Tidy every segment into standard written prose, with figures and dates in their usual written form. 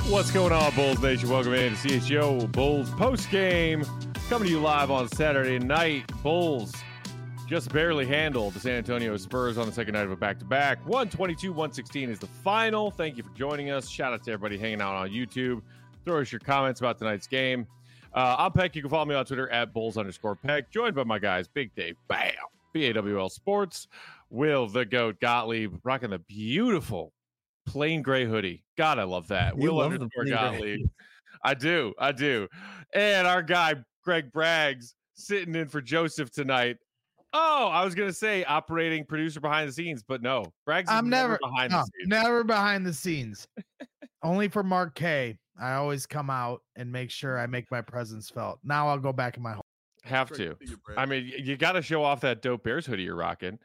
What's going on, Bulls Nation? Welcome in to CHGO Bulls post game. Coming to you live on Saturday night. Bulls just barely handled the San Antonio Spurs on the second night of a back-to-back. 122-116 is the final. Thank you for joining us. Shout out to everybody hanging out on YouTube. Throw us your comments about tonight's game. I'm Peck. You can follow me on Twitter at Bulls_Peck. Joined by my guys, Big Dave, bam, BAWL Sports, Will the Goat Gottlieb, rocking the beautiful plain gray hoodie. God, I love that. You Will love _ Gottlieb. I do. And our guy, Greg Braggs, sitting in for Joseph tonight. Oh, I was going to say operating producer behind the scenes, but no. Braggs is never behind the scenes. Never behind the scenes. Only for Mark K. I always come out and make sure I make my presence felt. Now I'll go back in my home. Have to. I mean, you got to show off that dope Bears hoodie you're rocking.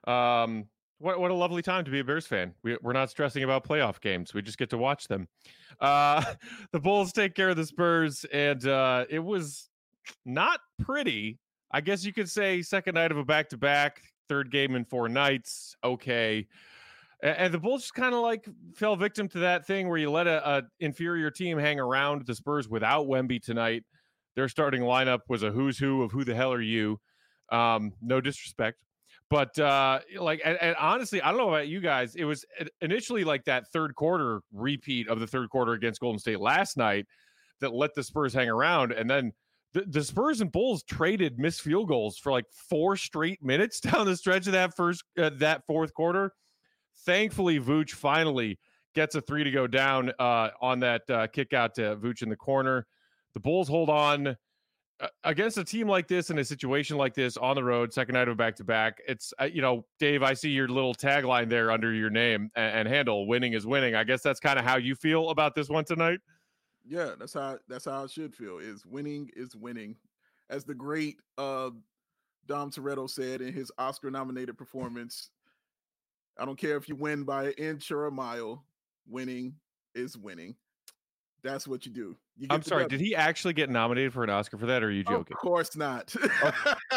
What a lovely time to be a Bears fan. We're not stressing about playoff games. We just get to watch them. The Bulls take care of the Spurs, and it was not pretty. I guess you could say second night of a back-to-back, third game in 4 nights. Okay. And the Bulls just kind of like fell victim to that thing where you let a inferior team hang around the Spurs without Wemby tonight. Their starting lineup was a who's who of who the hell are you. No disrespect. But and honestly, I don't know about you guys. It was initially like that third quarter repeat of the third quarter against Golden State last night that let the Spurs hang around. And then the Spurs and Bulls traded missed field goals for like 4 straight minutes down the stretch of that fourth quarter. Thankfully, Vooch finally gets a 3 to go down on that kick out to Vooch in the corner. The Bulls hold on against a team like this in a situation like this on the road, second night of a back-to-back. It's, Dave, I see your little tagline there under your name and handle, winning is winning. I guess that's kind of how you feel about this one tonight. Yeah, that's how it should feel. Is winning is winning. As the great Dom Toretto said in his Oscar-nominated performance, I don't care if you win by an inch or a mile, winning is winning. That's what you do. I'm sorry, did he actually get nominated for an Oscar for that, or are you joking? Of course not. I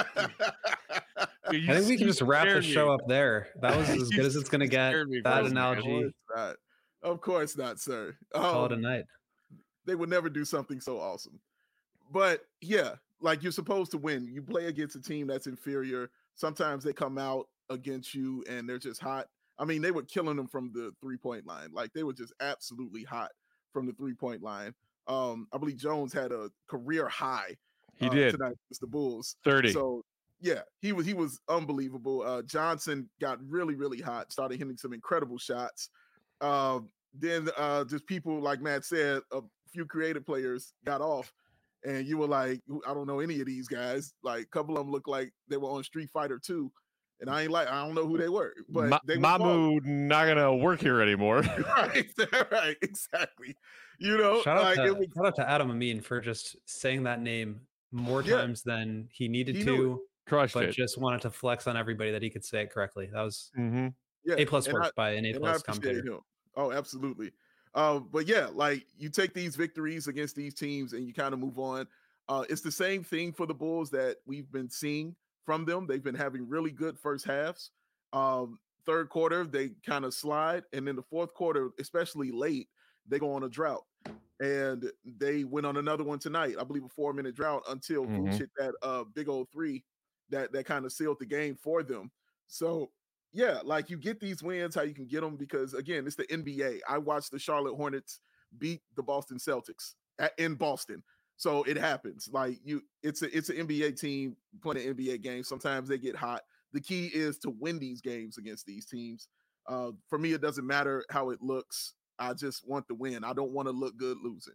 think we can just wrap the show up there. That was as good as it's going to get. That analogy. Of course not, sir. Call it a night. They would never do something so awesome. But yeah, like you're supposed to win. You play against a team that's inferior. Sometimes they come out against you and they're just hot. I mean, they were killing them from the 3-point line. Like they were just absolutely hot from the 3-point line. I believe Jones had a career high. He did tonight against the Bulls. 30. So yeah, he was unbelievable. Johnson got really, really hot, started hitting some incredible shots. Then just people, like Matt said, a few creative players got off, and you were like, I don't know any of these guys. Like a couple of them looked like they were on Street Fighter 2. And I don't know who they were, but Mamu not gonna work here anymore. right, exactly. Shout out to Adam Amin for just saying that name more times than he needed to. Crushed but it. Just wanted to flex on everybody that he could say it correctly. That was A+ work by an A+ commentator. Oh, absolutely. But yeah, like you take these victories against these teams and you kind of move on. It's the same thing for the Bulls that we've been seeing from them. They've been having really good first halves. Third quarter, they kind of slide. And then the fourth quarter, especially late, they go on a drought. And they went on another one tonight. I believe a 4-minute drought until Vooch hit that big old 3 that kind of sealed the game for them. So, yeah, like you get these wins, how you can get them, because, again, it's the NBA. I watched the Charlotte Hornets beat the Boston Celtics in Boston. So it happens. Like it's an NBA team playing an NBA game. Sometimes they get hot. The key is to win these games against these teams. For me, it doesn't matter how it looks. I just want the win. I don't want to look good losing.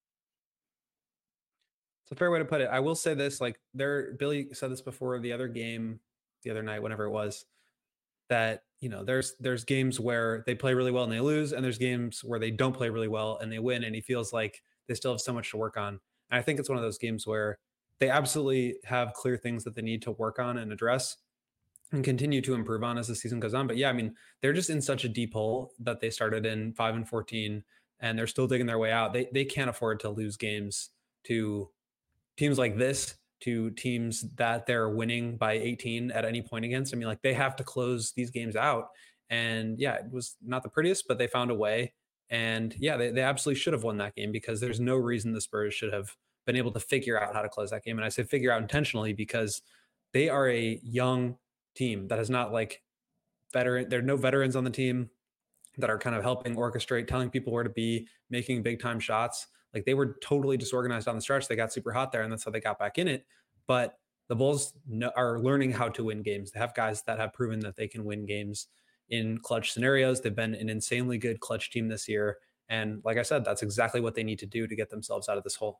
It's a fair way to put it. I will say this, like Billy said this before the other game, the other night, whenever it was, that, there's games where they play really well and they lose, and there's games where they don't play really well and they win, and he feels like they still have so much to work on. And I think it's one of those games where they absolutely have clear things that they need to work on and address and continue to improve on as the season goes on. But yeah, I mean, they're just in such a deep hole that they started in 5-14 and they're still digging their way out. They can't afford to lose games to teams like this, to teams that they're winning by 18 at any point against. I mean, like they have to close these games out. And yeah, it was not the prettiest, but they found a way. And yeah, they absolutely should have won that game, because there's no reason the Spurs should have been able to figure out how to close that game. And I say figure out intentionally because they are a young team that is not like veteran. There are no veterans on the team that are kind of helping orchestrate, telling people where to be, making big time shots. Like, they were totally disorganized on the stretch. They got super hot there, and that's how they got back in it. But the Bulls are learning how to win games. They have guys that have proven that they can win games in clutch scenarios. They've been an insanely good clutch team this year. And like I said, that's exactly what they need to do to get themselves out of this hole.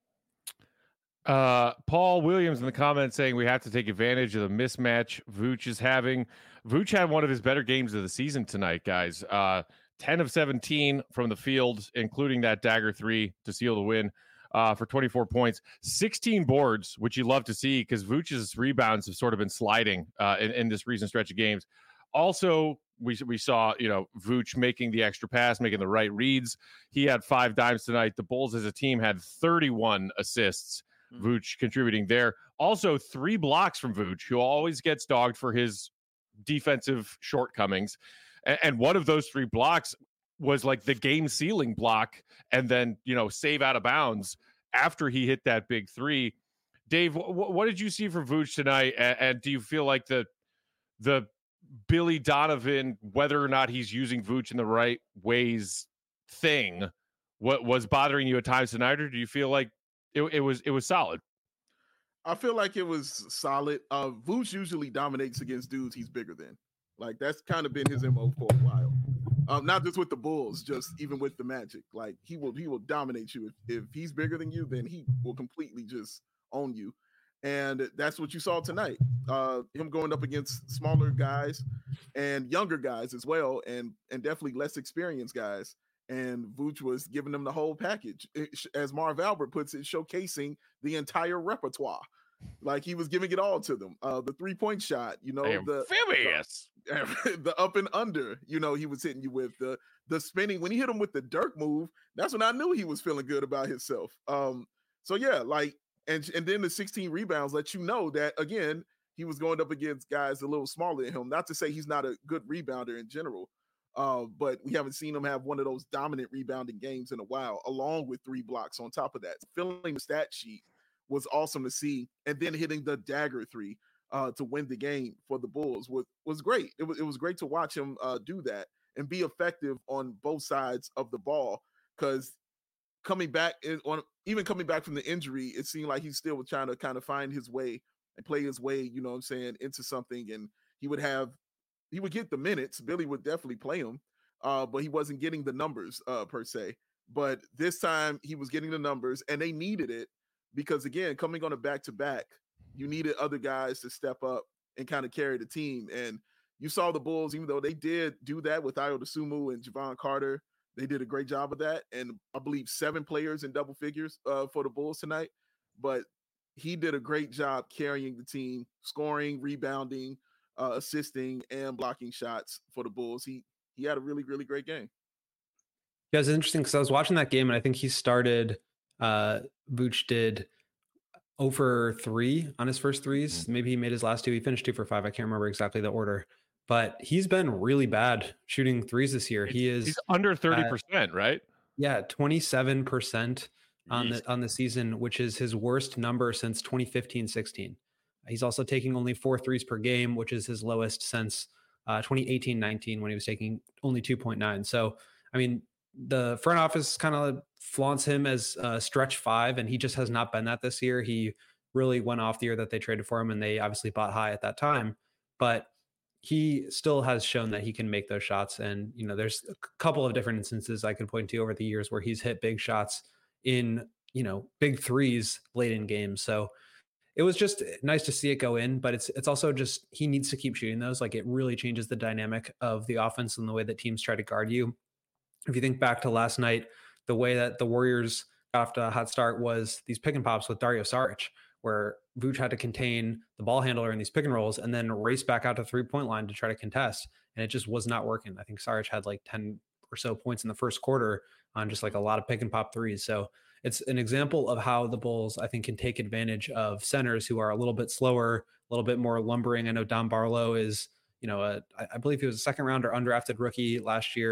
Paul Williams in the comments saying we have to take advantage of the mismatch Vooch is having. Vooch had one of his better games of the season tonight, guys. 10 of 17 from the field, including that dagger 3 to seal the win for 24 points. 16 boards, which you love to see because Vooch's rebounds have sort of been sliding in this recent stretch of games. Also, we saw, Vooch making the extra pass, making the right reads. He had 5 dimes tonight. The Bulls as a team had 31 assists. Vooch contributing there. Also, 3 blocks from Vooch, who always gets dogged for his defensive shortcomings. And one of those 3 blocks was like the game sealing block, and then, save out of bounds after he hit that big 3. Dave, what did you see from Vooch tonight? And do you feel like the Billy Donovan, whether or not he's using Vooch in the right ways thing, what was bothering you at times tonight, or do you feel like it was solid? I feel like it was solid. Vooch usually dominates against dudes he's bigger than. Like, that's kind of been his MO for a while. Not just with the Bulls, just even with the Magic. Like, he will dominate you. If he's bigger than you, then he will completely just own you. And that's what you saw tonight. Him going up against smaller guys and younger guys as well, and definitely less experienced guys. And Vooch was giving them the whole package, as Marv Albert puts it, showcasing the entire repertoire. Like, he was giving it all to them. The 3-point shot, the up and under, he was hitting you with the spinning. When he hit him with the Dirk move, that's when I knew he was feeling good about himself. So yeah, like, and then the 16 rebounds let you know that, again, he was going up against guys a little smaller than him. Not to say he's not a good rebounder in general. But we haven't seen him have one of those dominant rebounding games in a while, along with 3 blocks on top of that. Filling the stat sheet was awesome to see. And then hitting the dagger 3 to win the game for the Bulls was great. It was great to watch him do that and be effective on both sides of the ball, because coming back from the injury, it seemed like he still was trying to kind of find his way and play his way, into something. And he would get the minutes. Billy would definitely play him, but he wasn't getting the numbers per se. But this time he was getting the numbers, and they needed it because, again, coming on a back-to-back, you needed other guys to step up and kind of carry the team. And you saw the Bulls, even though they did do that with Ayo Dosunmu and Javon Carter, they did a great job of that. And I believe 7 players in double figures for the Bulls tonight. But he did a great job carrying the team, scoring, rebounding, assisting, and blocking shots for the Bulls. He had a really, really great game. Yeah, it's interesting because I was watching that game, and I think he started, Vooch did 0 for 3 on his first threes. Mm-hmm. Maybe he made his last 2. He finished 2 for 5. I can't remember exactly the order, but he's been really bad shooting threes this year. He's under 30%, right? Yeah, 27% on the season, which is his worst number since 2015-16. He's also taking only 4 threes per game, which is his lowest since 2018-19 when he was taking only 2.9. So, I mean, the front office kind of flaunts him as stretch 5, and he just has not been that this year. He really went off the year that they traded for him, and they obviously bought high at that time. But he still has shown that he can make those shots. And, there's a couple of different instances I could point to over the years where he's hit big shots in, big threes late in games. So it was just nice to see it go in, but it's also just, he needs to keep shooting those. Like, it really changes the dynamic of the offense and the way that teams try to guard you. If you think back to last night, the way that the Warriors got off to a hot start was these pick and pops with Dario Saric, where Vooch had to contain the ball handler in these pick and rolls and then race back out to 3-point line to try to contest. And it just was not working. I think Saric had like 10 or so points in the first quarter on just like a lot of pick and pop threes. So it's an example of how the Bulls, I think, can take advantage of centers who are a little bit slower, a little bit more lumbering. I know Dom Barlow is, I believe he was a second round or undrafted rookie last year.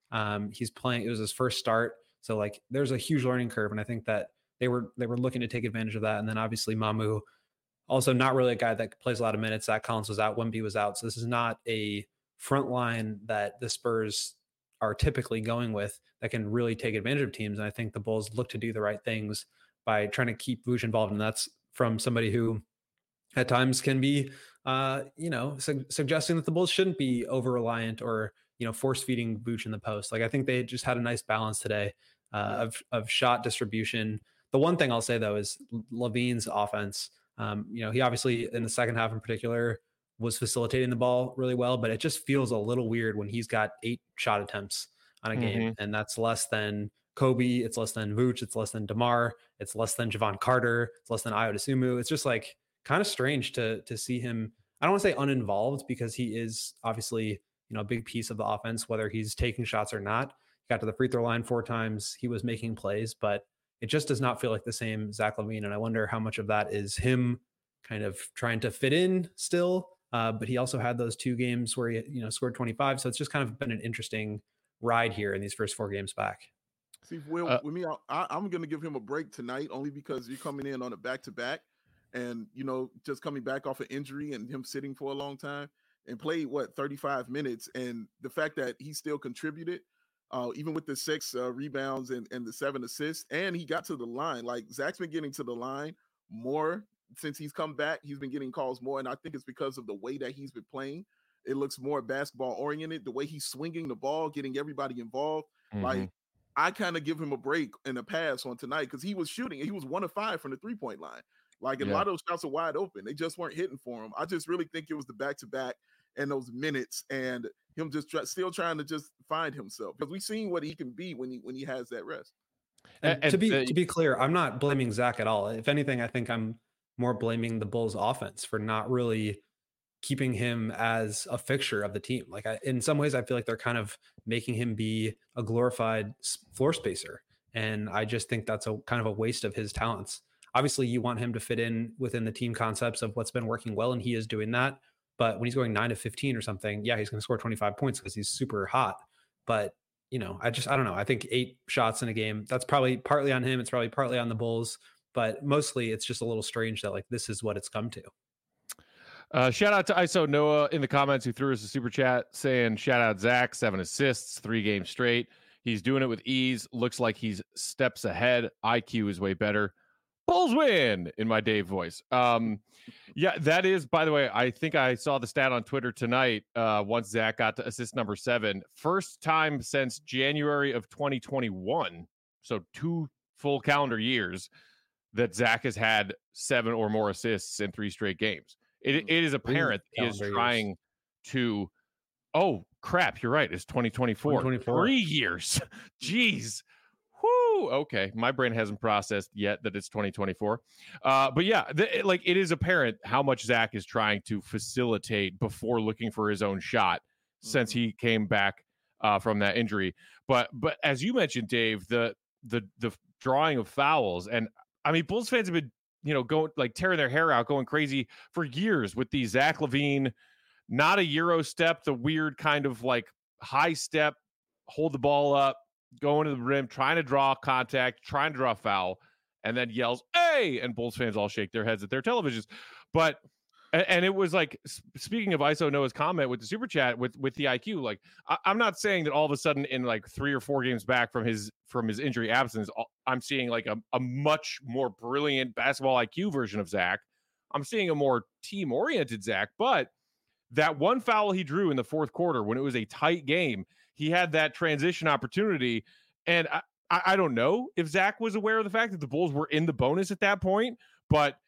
He's playing. It was his first start, so like there's a huge learning curve, and I think that they were looking to take advantage of that. And then obviously Mamu, also not really a guy that plays a lot of minutes. Zach Collins was out, Wemby was out, so this is not a front line that the Spurs are typically going with that can really take advantage of teams. And I think the Bulls look to do the right things by trying to keep Vooch involved, and that's from somebody who at times can be, suggesting that the Bulls shouldn't be over reliant or force feeding Vooch in the post. Like I think they just had a nice balance today of shot distribution. The one thing I'll say though is LaVine's offense. He obviously in the second half in particular was facilitating the ball really well, but it just feels a little weird when he's got 8 shot attempts on a game, and that's less than Kobe, it's less than Vooch, it's less than DeMar, it's less than Javon Carter, it's less than Ayo Dosunmu. It's just like kind of strange to see him. I don't want to say uninvolved because he is obviously a big piece of the offense, whether he's taking shots or not. He got to the free throw line 4 times. He was making plays, but it just does not feel like the same Zach LaVine. And I wonder how much of that is him kind of trying to fit in still. But he also had those 2 games where he scored 25. So it's just kind of been an interesting ride here in these first 4 games back. See, Will, with me, I'm going to give him a break tonight only because you're coming in on a back-to-back and, just coming back off an injury and him sitting for a long time and played, 35 minutes. And the fact that he still contributed, even with the 6 rebounds and the 7 assists, and he got to the line. Like, Zach's been getting to the line more since he's come back. He's been getting calls more, and I think it's because of the way that he's been playing. It looks more basketball-oriented, the way he's swinging the ball, getting everybody involved. Like, I kind of give him a break and a pass on tonight because he was shooting. He was 1 of 5 from the 3-point line. Like, a lot of those shots are wide open. They just weren't hitting for him. I just really think it was the back-to-back and those minutes and him just still trying to just find himself, because we've seen what he can be when he has that rest. And to be clear, I'm not blaming Zach at all. If anything, I think I'm more blaming the Bulls offense for not really keeping him as a fixture of the team. Like in some ways, I feel like they're kind of making him be a glorified floor spacer. And I just think that's a kind of a waste of his talents. Obviously you want him to fit in within the team concepts of what's been working well. And he is doing that. But when he's going 9 of 15 or something, yeah, he's going to score 25 points because he's super hot. But, I don't know. I think 8 shots in a game, that's probably partly on him. It's probably partly on the Bulls, but mostly it's just a little strange that like, this is what it's come to. Shout out to ISO Noah in the comments who threw us a super chat saying, shout out Zach, 7 assists, 3 games straight. He's doing it with ease. Looks like he's steps ahead. IQ is way better. Bulls win in my Dave voice. Yeah, that is, by the way, I think I saw the stat on Twitter tonight. Once Zach got to assist number 7, first time since January of 2021. So 2 full calendar years that Zach has had 7 or more assists in 3 straight games. It is apparent he is trying to. Oh crap! You're right. It's 2024. 3 years. Jeez. Whoo. Okay, my brain hasn't processed yet that it's 2024. But yeah, it is apparent how much Zach is trying to facilitate before looking for his own shot since he came back from that injury. But as you mentioned, Dave, the drawing of fouls, and I mean, Bulls fans have been going like tearing their hair out, going crazy for years with the Zach LaVine, not a Euro step, the weird kind of like high step, hold the ball up, going to the rim, trying to draw contact, trying to draw a foul, and then yells, "Hey!" And Bulls fans all shake their heads at their televisions. But and it was like, speaking of ISO Noah's comment with the super chat with the IQ, like I'm not saying that all of a sudden in like 3 or 4 games back from his injury absence, I'm seeing like a much more brilliant basketball IQ version of Zach. I'm seeing a more team oriented Zach, but that one foul he drew in the 4th quarter when it was a tight game, he had that transition opportunity. And I don't know if Zach was aware of the fact that the Bulls were in the bonus at that point, but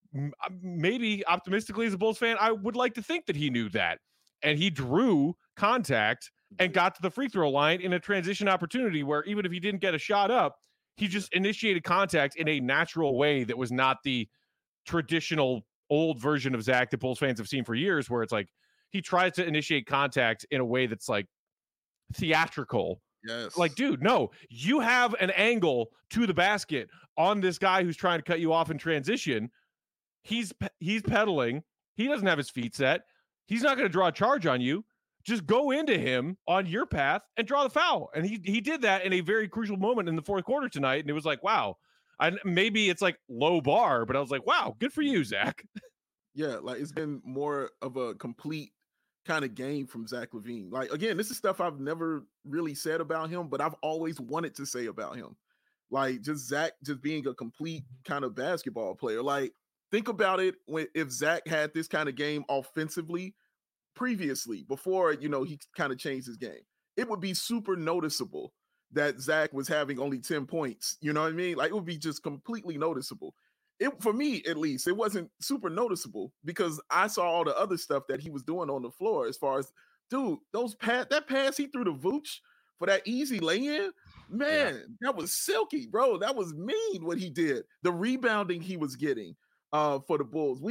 maybe optimistically as a Bulls fan, I would like to think that he knew that. And he drew contact and got to the free throw line in a transition opportunity where even if he didn't get a shot up, he just initiated contact in a natural way that was not the traditional old version of Zach that Bulls fans have seen for years, where it's like he tries to initiate contact in a way that's like theatrical. Yes. Like, dude, no, you have an angle to the basket on this guy who's trying to cut you off in transition. He's pedaling. He doesn't have his feet set. He's not going to draw a charge on you. just go into him on your path and draw the foul. And he did that in a very crucial moment in the fourth quarter tonight. And it was like, wow. Maybe it's like low bar, but I was like, wow, good for you, Zach. Yeah, like it's been more of a complete kind of game from Zach LaVine. Like, again, this is stuff I've never really said about him, but I've always wanted to say about him. Like, just Zach just being a complete kind of basketball player. Like, think about it if Zach had this kind of game offensively previously, before, you know, he kind of changed his game. It would be super noticeable that Zach was having only 10 points. You know what I mean? Like, it would be just completely noticeable. For me, at least, it wasn't super noticeable because I saw all the other stuff that he was doing on the floor. As far as, dude, that pass he threw to Vooch for that easy lay-in, man, that was silky, bro. That was mean what he did. The rebounding he was getting for the Bulls.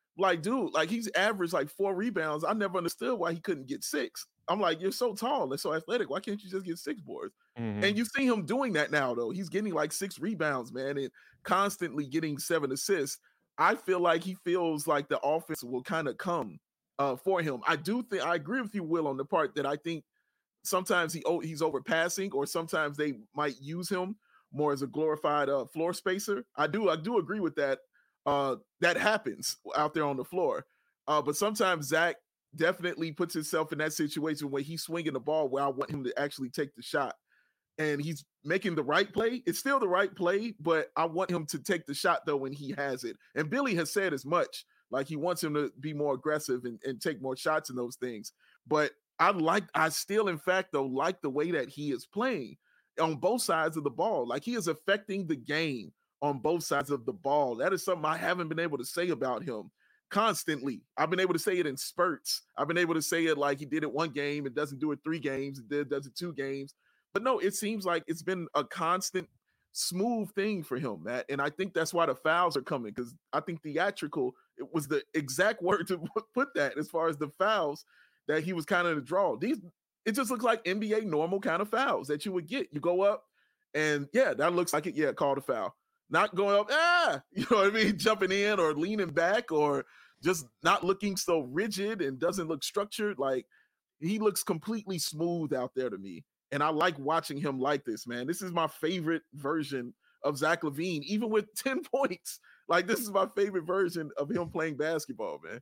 He's averaged like 4 rebounds. I never understood why he couldn't get 6. I'm like, you're so tall and so athletic. Why can't you just get 6 boards? Mm-hmm. And you see him doing that now, though. He's getting like 6 rebounds, man, and constantly getting 7 assists. I feel like he feels like the offense will kind of come for him. I agree with you, Will, on the part that I think sometimes he's overpassing, or sometimes they might use him more as a glorified floor spacer. I do agree with that. That happens out there on the floor. But sometimes Zach definitely puts himself in that situation where he's swinging the ball where I want him to actually take the shot. And he's making the right play. It's still the right play, but I want him to take the shot, though, when he has it. And Billy has said as much. Like, he wants him to be more aggressive and take more shots and those things. But I still, in fact, though, like the way that he is playing on both sides of the ball. Like, he is affecting the game on both sides of the ball. That is something I haven't been able to say about him constantly. I've been able to say it in spurts. I've been able to say it like he did it 1 game and doesn't do it 3 games, does it 2 games. But no, it seems like it's been a constant smooth thing for him, Matt. And I think that's why the fouls are coming, because I think theatrical, it was the exact word to put that, as far as the fouls that he was kind of the draw. It just looks like NBA normal kind of fouls that you would get. You go up and that looks like it. Yeah, called a foul. Not going up, you know what I mean? Jumping in or leaning back or just not looking so rigid and doesn't look structured. Like, he looks completely smooth out there to me. And I like watching him like this, man. This is my favorite version of Zach LaVine, even with 10 points. Like, this is my favorite version of him playing basketball, man.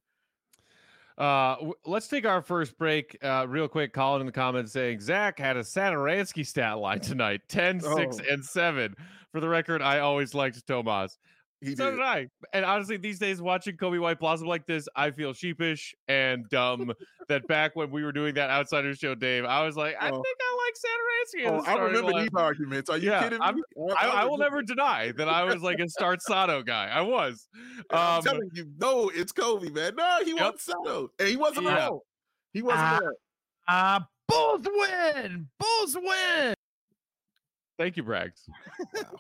Let's take our first break real quick. Colin in the comments saying Zach had a Satoransky stat line tonight, 10, 6, and 7. For the record, I always liked Tomas. So did I. And honestly, these days, watching Kobe White blossom like this, I feel sheepish and dumb that back when we were doing that Outsider show, Dave, I was like, I think I like Satoransky. I remember these arguments. Are you kidding me? I will never deny that I was like a start Sato guy. I was. I'm telling you, no, it's Kobe, man. No, he wasn't Sato. And he wasn't alone. He wasn't there. Bulls win! Bulls win! Thank you, Braggs. Wow.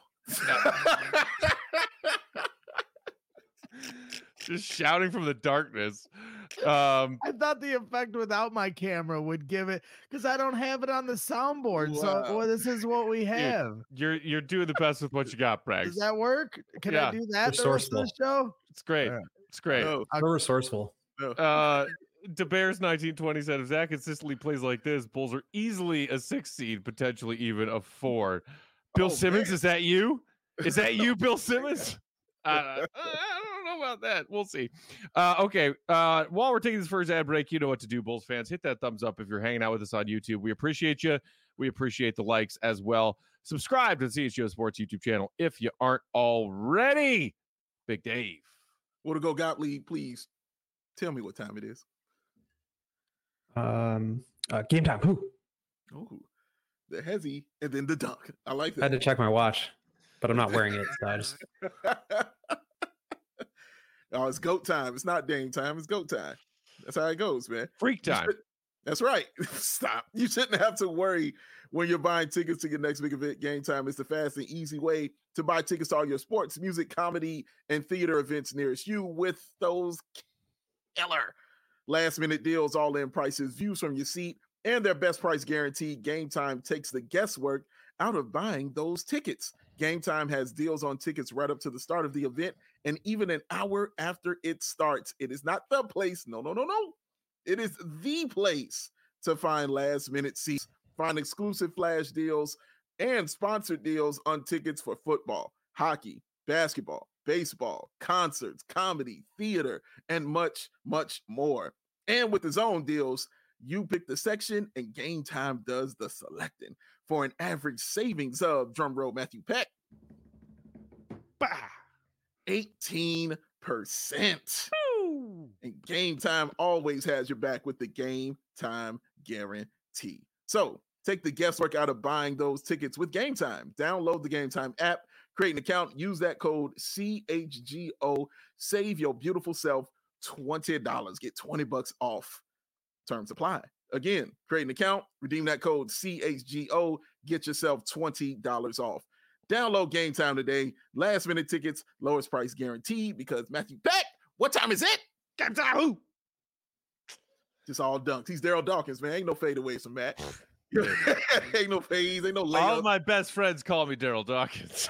Just shouting from the darkness. I thought the effect without my camera would give it, because I don't have it on the soundboard. Wow. So this is what we have. You're doing the best with what you got, Braggs. Does that work? Can I do that the rest of the show? It's great. It's great. So resourceful. DeBears 1920 said, if Zach consistently plays like this, Bulls are easily a 6 seed, potentially even a 4. Bill Simmons, man. Is that you? Is that you, Bill Simmons? I don't know about that. We'll see. Okay. While we're taking this first ad break, you know what to do, Bulls fans. Hit that thumbs up if you're hanging out with us on YouTube. We appreciate you. We appreciate the likes as well. Subscribe to the CHGO Sports YouTube channel if you aren't already. Big Dave. Want to go Gottlieb, please? Tell me what time it is. Game time. Who? Oh, the hezzy and then the dunk. I like that. I had to check my watch, but I'm not wearing it. So I just... Oh, it's GOAT time. It's not Dame time. It's GOAT time. That's how it goes, man. Freak time. That's right. Stop. You shouldn't have to worry when you're buying tickets to your next big event. Game Time is the fast and easy way to buy tickets to all your sports, music, comedy, and theater events nearest you with those killer last-minute deals, all-in prices, views from your seat, and their best price guarantee. Game Time takes the guesswork out of buying those tickets. Game Time has deals on tickets right up to the start of the event and even an hour after it starts. It is not the place. No. It is the place to find last-minute seats, find exclusive flash deals, and sponsored deals on tickets for football, hockey, basketball, baseball, concerts, comedy, theater, and much, much more. And with the zone deals, you pick the section and Game Time does the selecting for an average savings of, drumroll Matthew Peck, 18%. And Game Time always has your back with the Game Time guarantee. So take the guesswork out of buying those tickets with Game Time. Download the Game Time app, create an account, use that code CHGO, save your beautiful self $20. Get $20 off. Terms apply. Again, create an account, redeem that code CHGO, get yourself $20 off. Download Game Time today. Last minute tickets, lowest price guaranteed, because Matthew Peck, what time is it? Game Time. Who? Just all dunks. He's Daryl Dawkins, man. Ain't no fadeaways from Matt. Ain't no fades, ain't no layups. All my best friends call me Daryl Dawkins.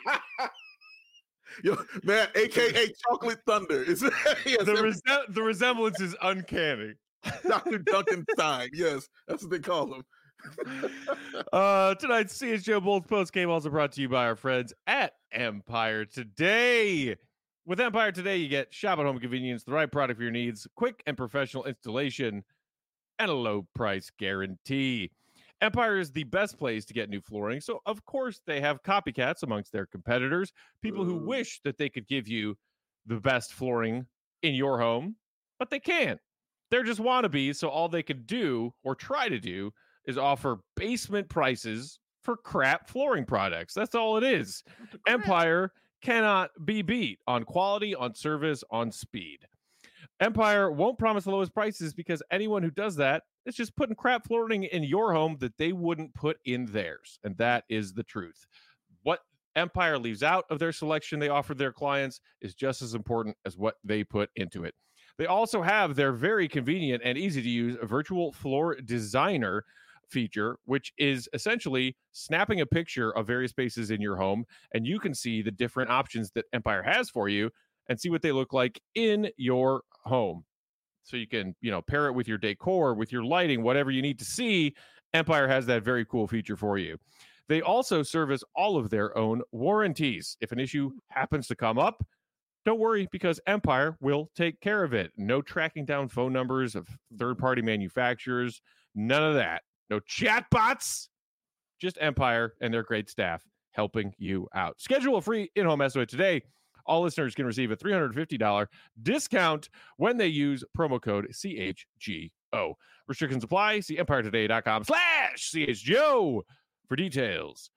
Yo, man, aka Chocolate Thunder. The resemblance is uncanny. Dr. Duncanstein. Yes, that's what they call him. Tonight's CHGO Bulls post game also brought to you by our friends at Empire Today. With Empire Today, you get shop at home convenience, the right product for your needs, quick and professional installation, and a low price guarantee. Empire is the best place to get new flooring, so of course they have copycats amongst their competitors, people who wish that they could give you the best flooring in your home, but they can't. They're just wannabes, so all they can do or try to do is offer basement prices for crap flooring products. That's all it is. Empire cannot be beat on quality, on service, on speed. Empire won't promise the lowest prices because anyone who does that is just putting crap flooring in your home that they wouldn't put in theirs. And that is the truth. What Empire leaves out of their selection they offer their clients is just as important as what they put into it. They also have their very convenient and easy to use virtual floor designer feature, which is essentially snapping a picture of various spaces in your home, and you can see the different options that Empire has for you and see what they look like in your home. So you can, pair it with your decor, with your lighting, whatever you need to see. Empire has that very cool feature for you. They also service all of their own warranties. If an issue happens to come up, don't worry, because Empire will take care of it. No tracking down phone numbers of third-party manufacturers. None of that. No chatbots. Just Empire and their great staff helping you out. Schedule a free in-home estimate today. All listeners can receive a $350 discount when they use promo code CHGO. Restrictions apply. See empiretoday.com/CHGO for details.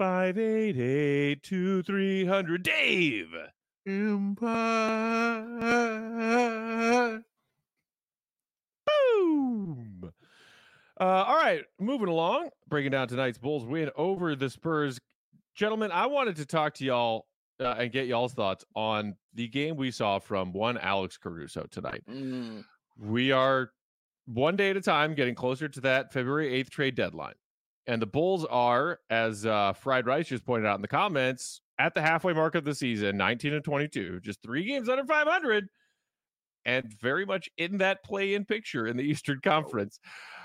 588-2300. Dave. Empire. Boom. All right, moving along, breaking down tonight's Bulls win over the Spurs. Gentlemen, I wanted to talk to y'all and get y'all's thoughts on the game we saw from one Alex Caruso tonight. We are one day at a time getting closer to that February 8th trade deadline. And the Bulls are, as Fried Rice just pointed out in the comments, at the halfway mark of the season, 19-22, just 3 games under 500, and very much in that play-in picture in the Eastern Conference.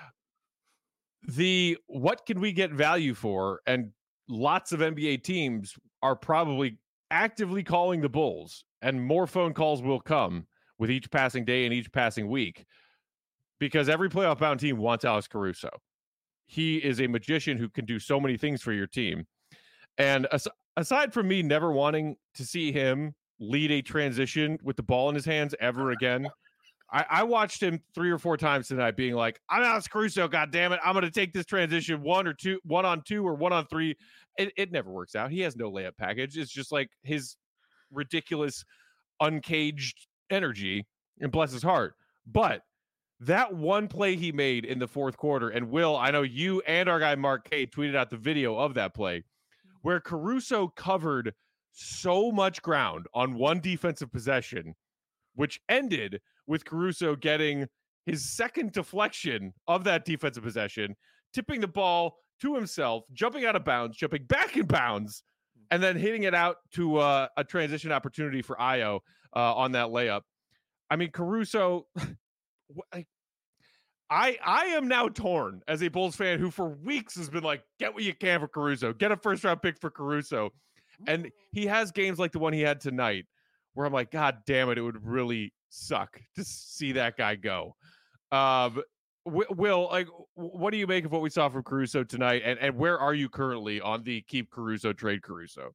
What can we get value for? And lots of NBA teams are probably actively calling the Bulls, and more phone calls will come with each passing day and each passing week, because every playoff-bound team wants Alex Caruso. He is a magician who can do so many things for your team. And aside from me never wanting to see him lead a transition with the ball in his hands ever again, I watched him 3 or 4 times tonight being like, I'm Alex Caruso, goddammit. I'm going to take this transition 1 on 2 or 1 on 3. It never works out. He has no layup package. It's just like his ridiculous, uncaged energy, and bless his heart. But that one play he made in the fourth quarter, and Will, I know you and our guy Mark K tweeted out the video of that play, where Caruso covered so much ground on one defensive possession, which ended with Caruso getting his second deflection of that defensive possession, tipping the ball to himself, jumping out of bounds, jumping back in bounds, and then hitting it out to a transition opportunity for Ayo on that layup. I mean, Caruso, I am now torn as a Bulls fan who for weeks has been like, get what you can for Caruso, get a first round pick for Caruso. And he has games like the one he had tonight where I'm like, God damn it, it would really suck to see that guy go. Will, like, what do you make of what we saw from Caruso tonight? And where are you currently on the keep Caruso, trade Caruso?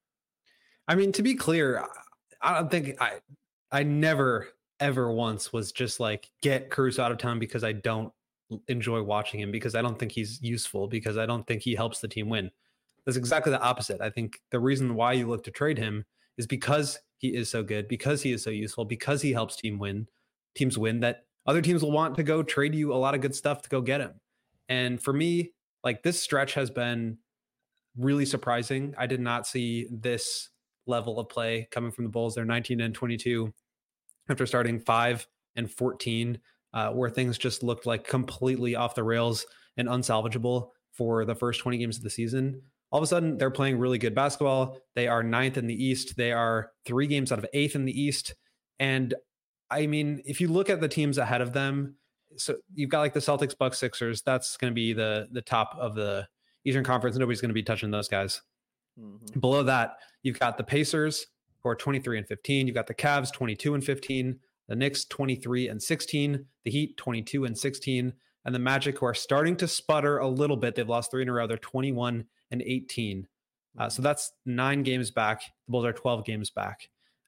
I mean, to be clear, I don't think I never ever once was just like, get Caruso out of town because I don't enjoy watching him, because I don't think he's useful, because I don't think he helps the team win. That's exactly the opposite. I think the reason why you look to trade him is because he is so good, because he is so useful, because he helps teams win, that other teams will want to go trade you a lot of good stuff to go get him. And for me, like, this stretch has been really surprising. I did not see this level of play coming from the Bulls. They're 19-22 after starting 5-14, where things just looked like completely off the rails and unsalvageable for the first 20 games of the season. All of a sudden, they're playing really good basketball. They are 9th in the East. They are 3 games out of 8th in the East. And I mean, if you look at the teams ahead of them, so you've got like the Celtics, Bucks, Sixers. That's going to be the top of the Eastern Conference. Nobody's going to be touching those guys. Mm-hmm. Below that, you've got the Pacers, who are 23-15. You've got the Cavs, 22-15. The Knicks, 23-16. The Heat, 22-16. And the Magic, who are starting to sputter a little bit. They've lost 3 in a row. They're 21-18. So that's 9 games back. The Bulls are 12 games back.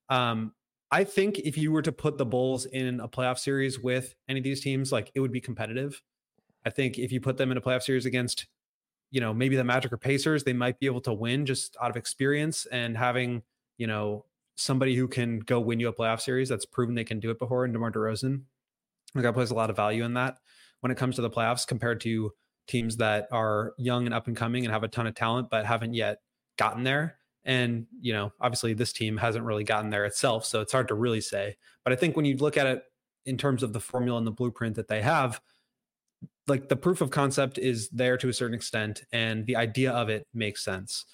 I think if you were to put the Bulls in a playoff series with any of these teams, like, it would be competitive. I think if you put them in a playoff series against, you know, maybe the Magic or Pacers, they might be able to win just out of experience and having, you know, somebody who can go win you a playoff series that's proven they can do it before. And DeMar DeRozan, the guy plays a lot of value in that when it comes to the playoffs, compared to teams that are young and up and coming and have a ton of talent, but haven't yet gotten there. And, you know, obviously this team hasn't really gotten there itself, so it's hard to really say. But I think when you look at it in terms of the formula and the blueprint that they have, like, the proof of concept is there to a certain extent, and the idea of it makes sense.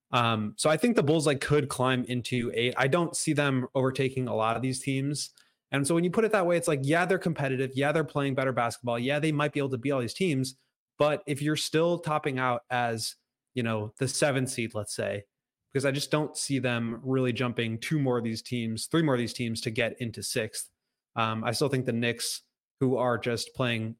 So I think the Bulls, like, could climb into 8. I don't see them overtaking a lot of these teams. And so when you put it that way, it's like, yeah, they're competitive. Yeah, they're playing better basketball. Yeah, they might be able to beat all these teams. But if you're still topping out as, you know, the 7th seed, let's say, because I just don't see them really jumping 3 more of these teams to get into 6th. I still think the Knicks, who are just playing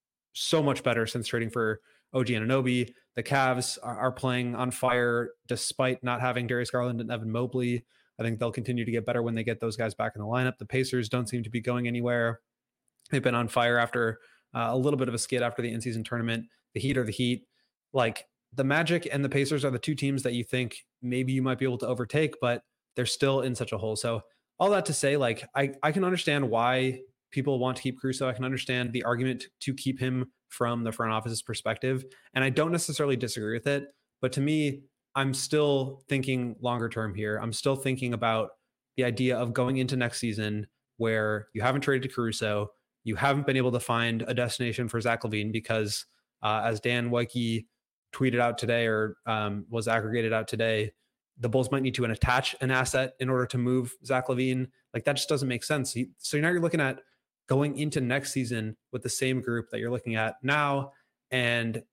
so much better since trading for OG Anunoby, the Cavs are playing on fire despite not having Darius Garland and Evan Mobley. I think they'll continue to get better when they get those guys back in the lineup. The Pacers don't seem to be going anywhere. They've been on fire after a little bit of a skid after the in-season tournament. The Heat are the Heat. Like, the Magic and the Pacers are the 2 teams that you think maybe you might be able to overtake, but they're still in such a hole. So all that to say, like, I can understand why people want to keep Caruso. I can understand the argument to keep him from the front office's perspective. And I don't necessarily disagree with it. But to me, I'm still thinking longer term here. I'm still thinking about the idea of going into next season where you haven't traded to Caruso. You haven't been able to find a destination for Zach LaVine because, as Dan Wojcicki tweeted out today, or was aggregated out today, the Bulls might need to attach an asset in order to move Zach LaVine. Like, that just doesn't make sense. So now you're looking at going into next season with the same group that you're looking at now. And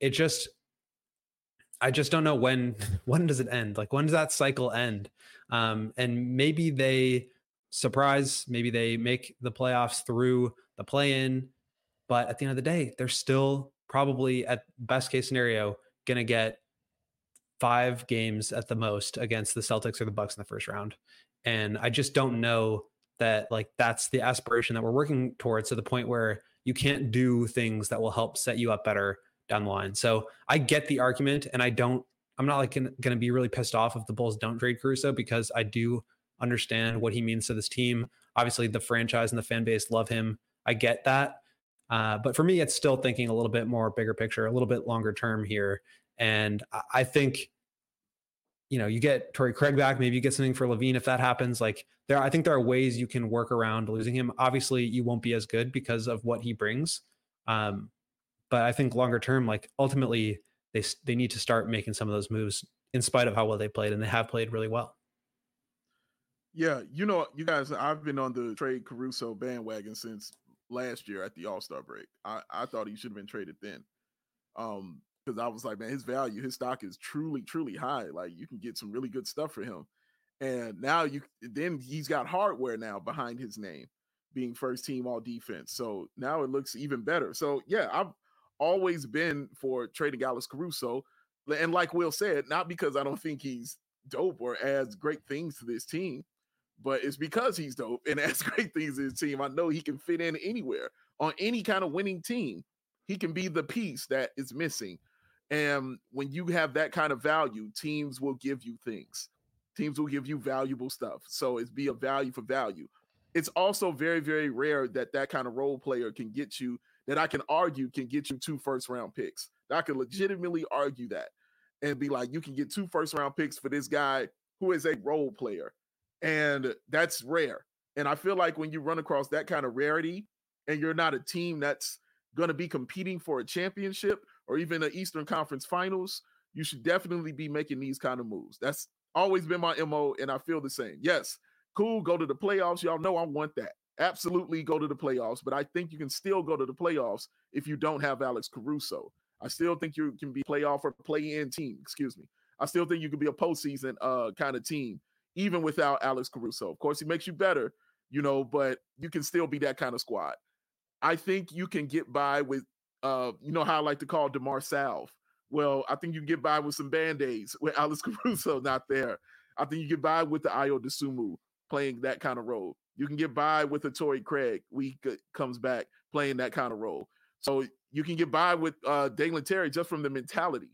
I just don't know when does it end? Like, when does that cycle end? And maybe they surprise, maybe they make the playoffs through the play-in, but at the end of the day, they're still probably, at best case scenario, going to get 5 games at the most against the Celtics or the Bucks in the first round. And I just don't know that, like, that's the aspiration that we're working towards, to the point where you can't do things that will help set you up better down the line. So I get the argument, and I'm not like going to be really pissed off if the Bulls don't trade Caruso, because I do understand what he means to this team. Obviously the franchise and the fan base love him. I get that. But for me, it's still thinking a little bit more bigger picture, a little bit longer term here. And I think, you know, you get Torrey Craig back, maybe you get something for LaVine if that happens. Like, I think there are ways you can work around losing him. Obviously, you won't be as good because of what he brings. But I think longer term, like, ultimately, they need to start making some of those moves in spite of how well they played, and they have played really well. Yeah, you know, you guys, I've been on the trade Caruso bandwagon since last year at the All-Star break. I thought he should have been traded then. Because I was like, man, his value, his stock is truly, truly high. Like, you can get some really good stuff for him. And now then he's got hardware now behind his name, being first team all defense. So now it looks even better. So yeah, I've always been for trading Alex Caruso. And like Will said, not because I don't think he's dope or adds great things to this team, but it's because he's dope and adds great things to his team. I know he can fit in anywhere on any kind of winning team. He can be the piece that is missing. And when you have that kind of value, teams will give you things. Teams will give you valuable stuff. So it's be a value for value. It's also very, very rare that kind of role player can get you, that I can argue can get you 2 first-round picks. I can legitimately argue that and be like, you can get 2 first-round picks for this guy who is a role player. And that's rare. And I feel like when you run across that kind of rarity and you're not a team that's going to be competing for a championship or even an Eastern Conference Finals, you should definitely be making these kind of moves. That's always been my MO, and I feel the same. Yes, cool, go to the playoffs. Y'all know I want that. Absolutely go to the playoffs, but I think you can still go to the playoffs if you don't have Alex Caruso. I still think you can be playoff or play-in team, I still think you can be a postseason kind of team, even without Alex Caruso. Of course, he makes you better, but you can still be that kind of squad. I think you can get by with, how I like to call DeMar Salve. Well, I think you can get by with some Band-Aids with Alex Caruso not there. I think you get by with the Ayo Dosunmu playing that kind of role. You can get by with a Torrey Craig when he comes back playing that kind of role. So you can get by with Dalen Terry just from the mentality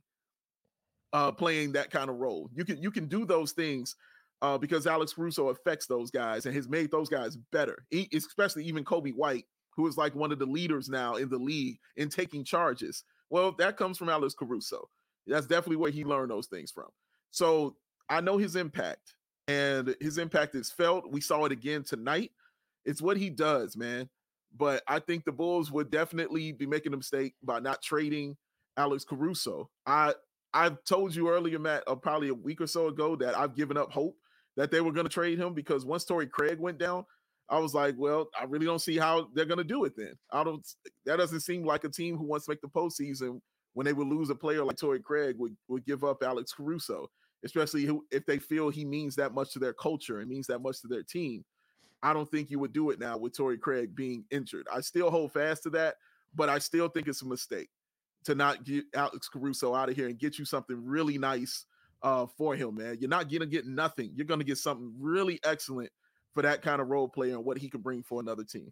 playing that kind of role. You can do those things because Alex Caruso affects those guys and has made those guys better, especially even Kobe White, who is like one of the leaders now in the league in taking charges. Well, that comes from Alex Caruso. That's definitely where he learned those things from. So I know his impact, and his impact is felt. We saw it again tonight. It's what he does, man. But I think the Bulls would definitely be making a mistake by not trading Alex Caruso. I've told you earlier, Matt, probably a week or so ago, that I've given up hope that they were going to trade him because once Torrey Craig went down, I was like, well, I really don't see how they're going to do it then. That doesn't seem like a team who wants to make the postseason when they would lose a player like Torrey Craig would give up Alex Caruso, especially if they feel he means that much to their culture and means that much to their team. I don't think you would do it now with Torrey Craig being injured. I still hold fast to that, but I still think it's a mistake to not get Alex Caruso out of here and get you something really nice for him, man. You're not going to get nothing. You're going to get something really excellent for that kind of role player and what he can bring for another team.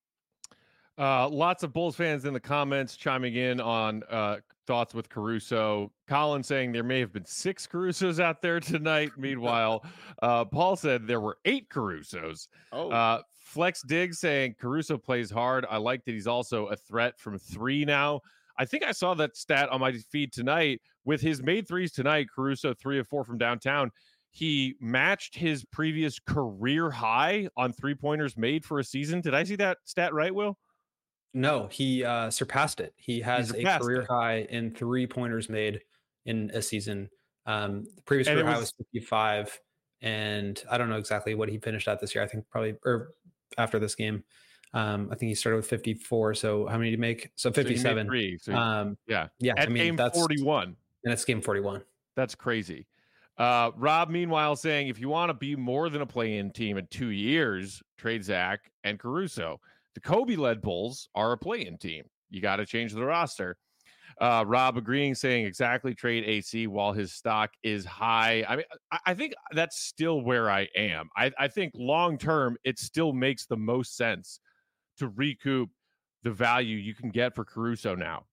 Lots of Bulls fans in the comments chiming in on thoughts with Caruso. Colin saying there may have been 6 Carusos out there tonight. Meanwhile, Paul said there were 8 Carusos. Flex Diggs saying Caruso plays hard. I like that he's also a threat from 3 now. I think I saw that stat on my feed tonight. With his made threes tonight, Caruso 3 of 4 from downtown. He matched his previous career high on 3-pointers made for a season. Did I see that stat right, Will? No, he surpassed it. He has a career high in 3-pointers made in a season. The previous career high was 55, and I don't know exactly what he finished at this year. I think probably after this game. I think he started with 54. So how many did he make? So 57. Yeah. At game 41. And it's game 41. That's crazy. Rob, meanwhile, saying if you want to be more than a play-in team in 2 years, trade Zach and Caruso. The Kobe-led Bulls are a play-in team. You got to change the roster. Rob agreeing, saying exactly, trade AC while his stock is high. I mean, I think that's still where I am. I think long-term, it still makes the most sense to recoup the value you can get for Caruso now.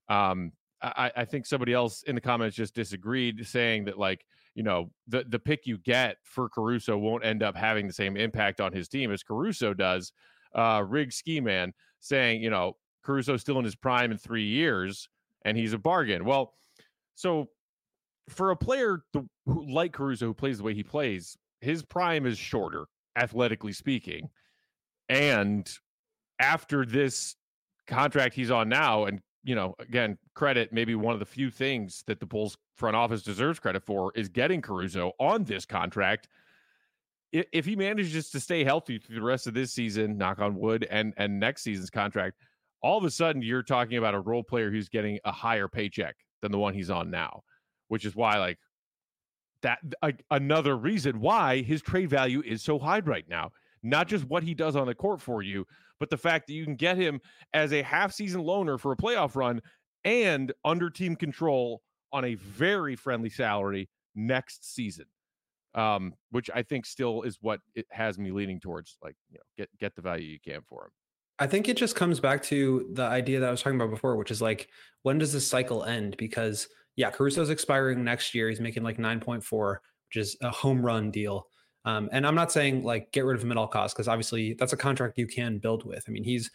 I think somebody else in the comments just disagreed, saying that, like, the pick you get for Caruso won't end up having the same impact on his team as Caruso does. Rig Ski Man saying, Caruso's still in his prime in 3 years and he's a bargain. Well, so for a player like Caruso, who plays the way he plays, his prime is shorter, athletically speaking. And after this contract he's on now, and, again, credit, maybe one of the few things that the Bulls front office deserves credit for is getting Caruso on this contract. if he manages to stay healthy through the rest of this season, knock on wood, and next season's contract, all of a sudden you're talking about a role player who's getting a higher paycheck than the one he's on now, which is why like that another reason why his trade value is so high right now. Not just what he does on the court for you, but the fact that you can get him as a half-season loaner for a playoff run and under team control on a very friendly salary next season, which I think still is what it has me leaning towards. Like, get the value you can for him. I think it just comes back to the idea that I was talking about before, which is like, when does this cycle end? Because Caruso's expiring next year. He's making like 9.4, which is a home run deal. And I'm not saying like get rid of him at all costs, because obviously that's a contract you can build with. I mean, he's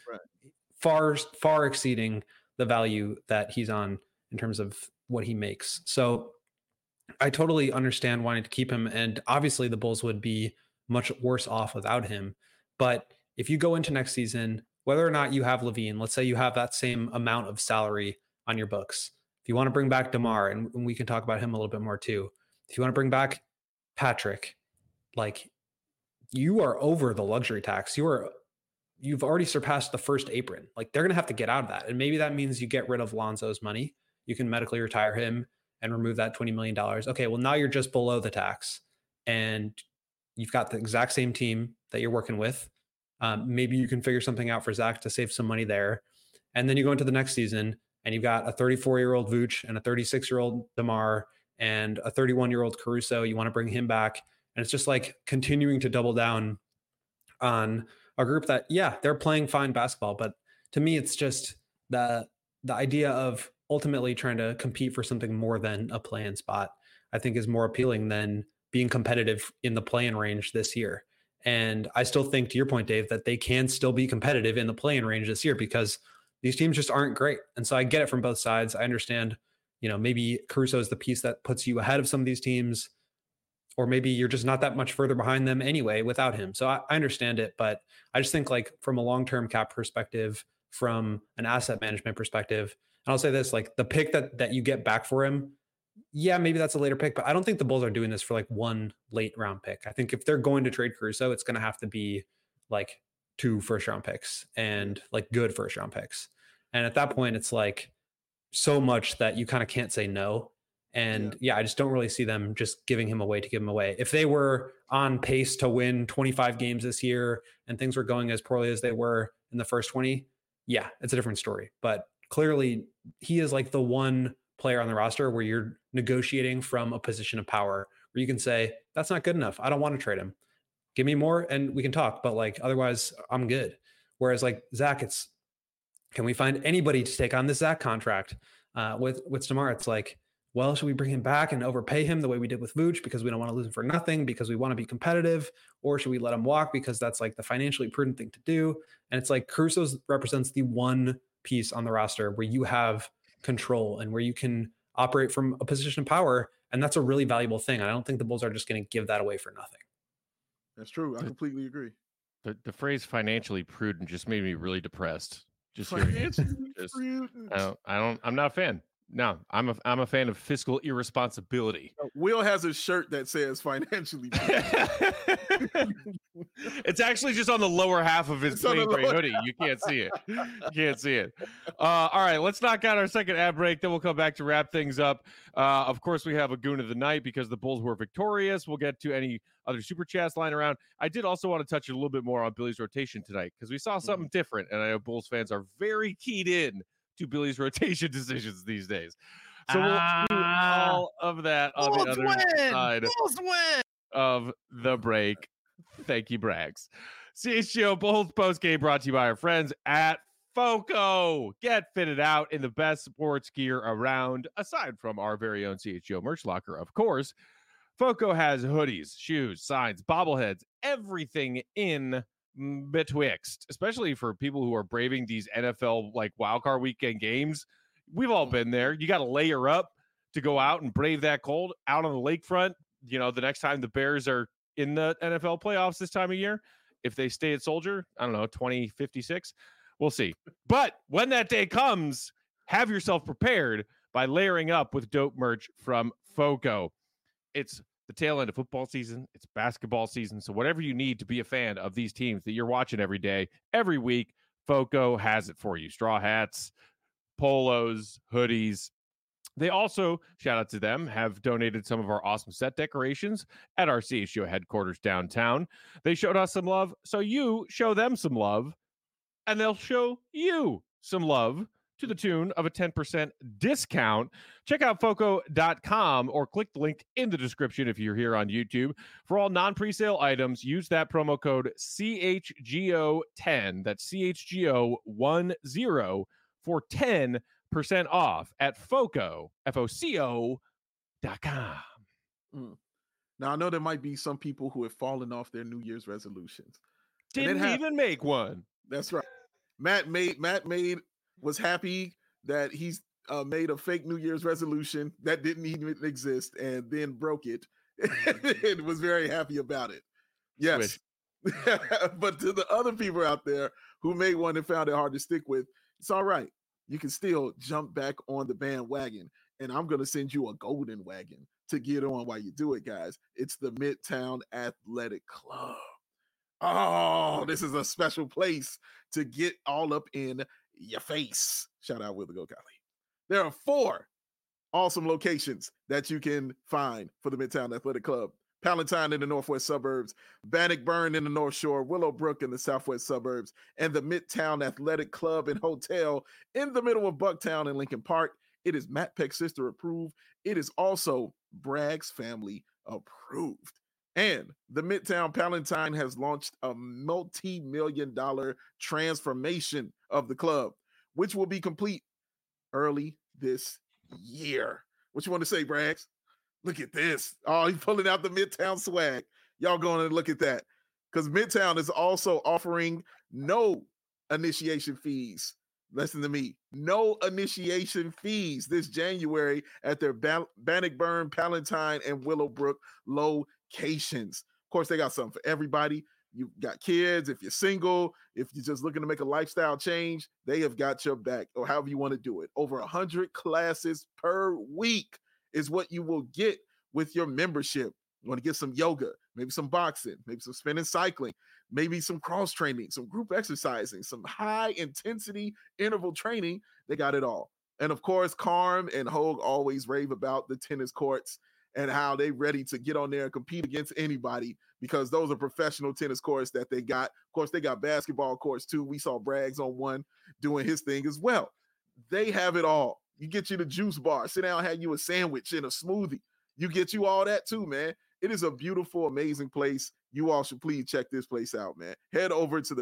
far exceeding the value that he's on in terms of what he makes. So I totally understand wanting to keep him. And obviously the Bulls would be much worse off without him. But if you go into next season, whether or not you have LaVine, let's say you have that same amount of salary on your books. If you want to bring back DeMar, and we can talk about him a little bit more too. If you want to bring back Patrick, like, you are over the luxury tax. You've already surpassed the first apron. Like, they're going to have to get out of that. And maybe that means you get rid of Lonzo's money. You can medically retire him and remove that $20 million. Okay, well, now you're just below the tax and you've got the exact same team that you're working with. Maybe you can figure something out for Zach to save some money there. And then you go into the next season and you've got a 34-year-old Vooch and a 36-year-old DeMar and a 31-year-old Caruso. You want to bring him back. And it's just like continuing to double down on a group that, they're playing fine basketball. But to me, it's just the idea of ultimately trying to compete for something more than a play-in spot, I think is more appealing than being competitive in the play-in range this year. And I still think, to your point, Dave, that they can still be competitive in the play-in range this year because these teams just aren't great. And so I get it from both sides. I understand, maybe Caruso is the piece that puts you ahead of some of these teams, or maybe you're just not that much further behind them anyway without him. So I understand it, but I just think, like, from a long-term cap perspective, from an asset management perspective, and I'll say this, like, the pick that you get back for him, maybe that's a later pick, but I don't think the Bulls are doing this for like one late round pick. I think if they're going to trade Caruso, it's going to have to be like 2 first round picks and like good first round picks. And at that point, it's like so much that you kind of can't say no. And I just don't really see them just giving him away to give him away. If they were on pace to win 25 games this year and things were going as poorly as they were in the first 20, it's a different story. But clearly he is like the one player on the roster where you're negotiating from a position of power, where you can say, that's not good enough. I don't want to trade him. Give me more and we can talk, but like, otherwise I'm good. Whereas like Zach, it's, can we find anybody to take on this Zach contract? With DeMar, it's like, well, should we bring him back and overpay him the way we did with Vooch because we don't want to lose him for nothing, because we want to be competitive? Or should we let him walk because that's like the financially prudent thing to do? And it's like Caruso represents the one piece on the roster where you have control and where you can operate from a position of power. And that's a really valuable thing. I don't think the Bulls are just going to give that away for nothing. That's true. I completely agree. The phrase financially prudent just made me really depressed. Just financially prudent. I'm not a fan. No, I'm a fan of fiscal irresponsibility. Will has a shirt that says financially. It's actually just on the lower half of his plain gray hoodie. You can't see it. All right, let's knock out our second ad break. Then we'll come back to wrap things up. Of course, we have a goon of the night because the Bulls were victorious. We'll get to any other super chats lying around. I did also want to touch a little bit more on Billy's rotation tonight because we saw something different, and I know Bulls fans are very keyed in to Billy's rotation decisions these days. So we'll do all of that on the other side of the break. Thank you, Braggs. CHGO Bulls postgame brought to you by our friends at FOCO. Get fitted out in the best sports gear around, aside from our very own CHGO merch locker, of course. FOCO has hoodies, shoes, signs, bobbleheads, everything in betwixt, especially for people who are braving these NFL like wildcard weekend games. We've all been there. You got to layer up to go out and brave that cold out on the lakefront. The next time the Bears are in the NFL playoffs this time of year, if they stay at Soldier, I don't know, 2056, we'll see. But when that day comes, have yourself prepared by layering up with dope merch from FOCO. It's the tail end of football season. It's basketball season. So whatever you need to be a fan of these teams that you're watching every day, every week, Foco has it for you. Straw hats, polos, hoodies. They also, shout out to them, have donated some of our awesome set decorations at our CHGO headquarters downtown. They showed us some love, so you show them some love, and they'll show you some love to the tune of a 10% discount. Check out Foco.com or click the link in the description if you're here on YouTube. For all non-presale items, use that promo code CHGO10. That's CHGO10 for 10% off at Foco, FOCO.com. Now, I know there might be some people who have fallen off their New Year's resolutions. Didn't even make one. That's right. Matt was happy that he's made a fake New Year's resolution that didn't even exist and then broke it. And was very happy about it. Yes. But to the other people out there who made one and found it hard to stick with, it's all right. You can still jump back on the bandwagon, and I'm going to send you a golden wagon to get on while you do it, guys. It's the Midtown Athletic Club. Oh, this is a special place to get all up in your face. Shout out Will the Go Golly. There are 4 awesome locations that you can find for the Midtown Athletic Club. Palatine in the northwest suburbs, Bannockburn in the North Shore, Willowbrook in the southwest suburbs, and the Midtown Athletic Club and Hotel in the middle of Bucktown and Lincoln Park. It is Matt Peck's sister approved. It is also Bragg's family approved. And the Midtown Palatine has launched a multi-million-dollar transformation of the club, which will be complete early this year. What you want to say, Braggs? Look at this. Oh, he's pulling out the Midtown swag. Y'all going to look at that. Because Midtown is also offering no initiation fees. Listen to me. No initiation fees this January at their Bannockburn, Palatine, and Willowbrook locations. Of course, they got something for everybody. You got kids, if you're single, if you're just looking to make a lifestyle change, they have got your back, or however you want to do it. Over 100 classes per week is what you will get with your membership. You want to get some yoga, maybe some boxing, maybe some spinning cycling, maybe some cross training, some group exercising, some high intensity interval training. They got it all. And of course, Carm and Hogue always rave about the tennis courts and how they ready to get on there and compete against anybody, because those are professional tennis courts that they got. Of course, they got basketball courts too. We saw Braggs on one doing his thing as well. They have it all. You get you the juice bar, sit down, have you a sandwich and a smoothie. You get you all that too, man. It is a beautiful, amazing place. You all should please check this place out, man. Head over to the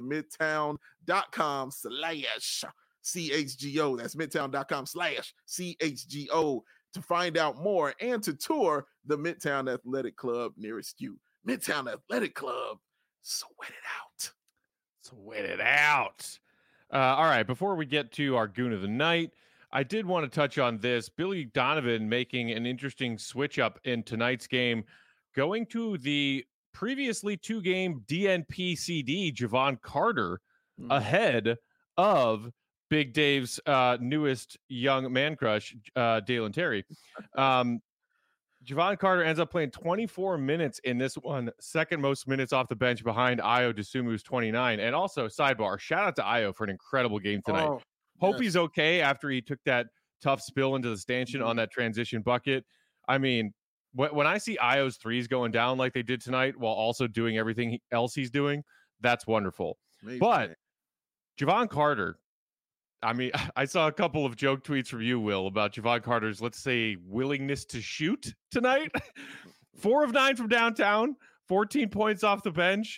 midtown.com/CHGO. That's midtown.com/CHGO to find out more and to tour the Midtown Athletic Club nearest you. Midtown Athletic Club. Sweat it out. Sweat it out. All right, before we get to our Goon of the Night, I did want to touch on this. Billy Donovan making an interesting switch up in tonight's game, going to the previously 2-game DNP CD, Javon Carter, ahead of Big Dave's newest young man crush, Dalen Terry. Javon Carter ends up playing 24 minutes in this one, second most minutes off the bench behind Ayo Dosunmu's 29. And also, sidebar, shout out to Ayo for an incredible game tonight. Hope he's okay after he took that tough spill into the stanchion on that transition bucket. I mean, when I see Ayo's threes going down like they did tonight while also doing everything else he's doing, that's wonderful. Amazing. But Javon Carter, I mean, I saw a couple of joke tweets from you, Will, about Javon Carter's, let's say, willingness to shoot tonight. 4 of 9 from downtown, 14 points off the bench.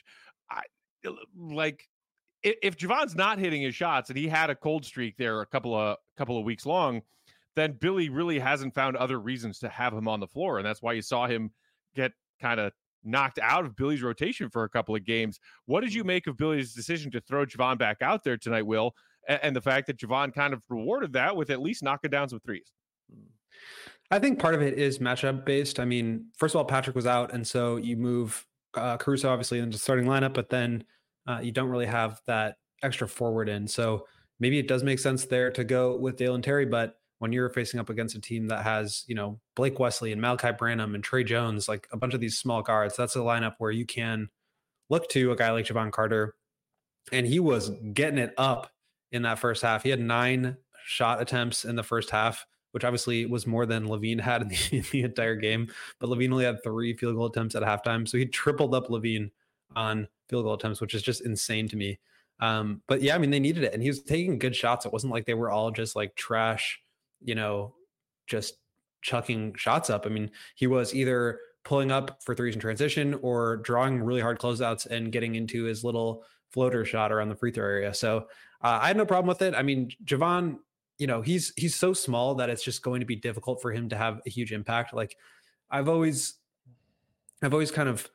If Javon's not hitting his shots, and he had a cold streak there a couple of weeks long, then Billy really hasn't found other reasons to have him on the floor. And that's why you saw him get kind of knocked out of Billy's rotation for a couple of games. What did you make of Billy's decision to throw Javon back out there tonight, Will? And the fact that Javon kind of rewarded that with at least knocking down some threes? I think part of it is matchup based. I mean, first of all, Patrick was out, and so you move Caruso obviously into the starting lineup, but then you don't really have that extra forward in. So maybe it does make sense there to go with Dalen Terry, but when you're facing up against a team that has, Blake Wesley and Malachi Branham and Trey Jones, like a bunch of these small guards, that's a lineup where you can look to a guy like Jevon Carter. And he was getting it up in that first half. He had 9 shot attempts in the first half, which obviously was more than LaVine had in the entire game. But LaVine only had 3 field goal attempts at halftime. So he tripled up LaVine on field goal attempts, which is just insane to me. But yeah, I mean, they needed it. And he was taking good shots. It wasn't like they were all just like trash, just chucking shots up. I mean, he was either pulling up for threes in transition or drawing really hard closeouts and getting into his little floater shot around the free throw area. So I had no problem with it. I mean, Jevon, he's so small that it's just going to be difficult for him to have a huge impact. Like I've always kind of,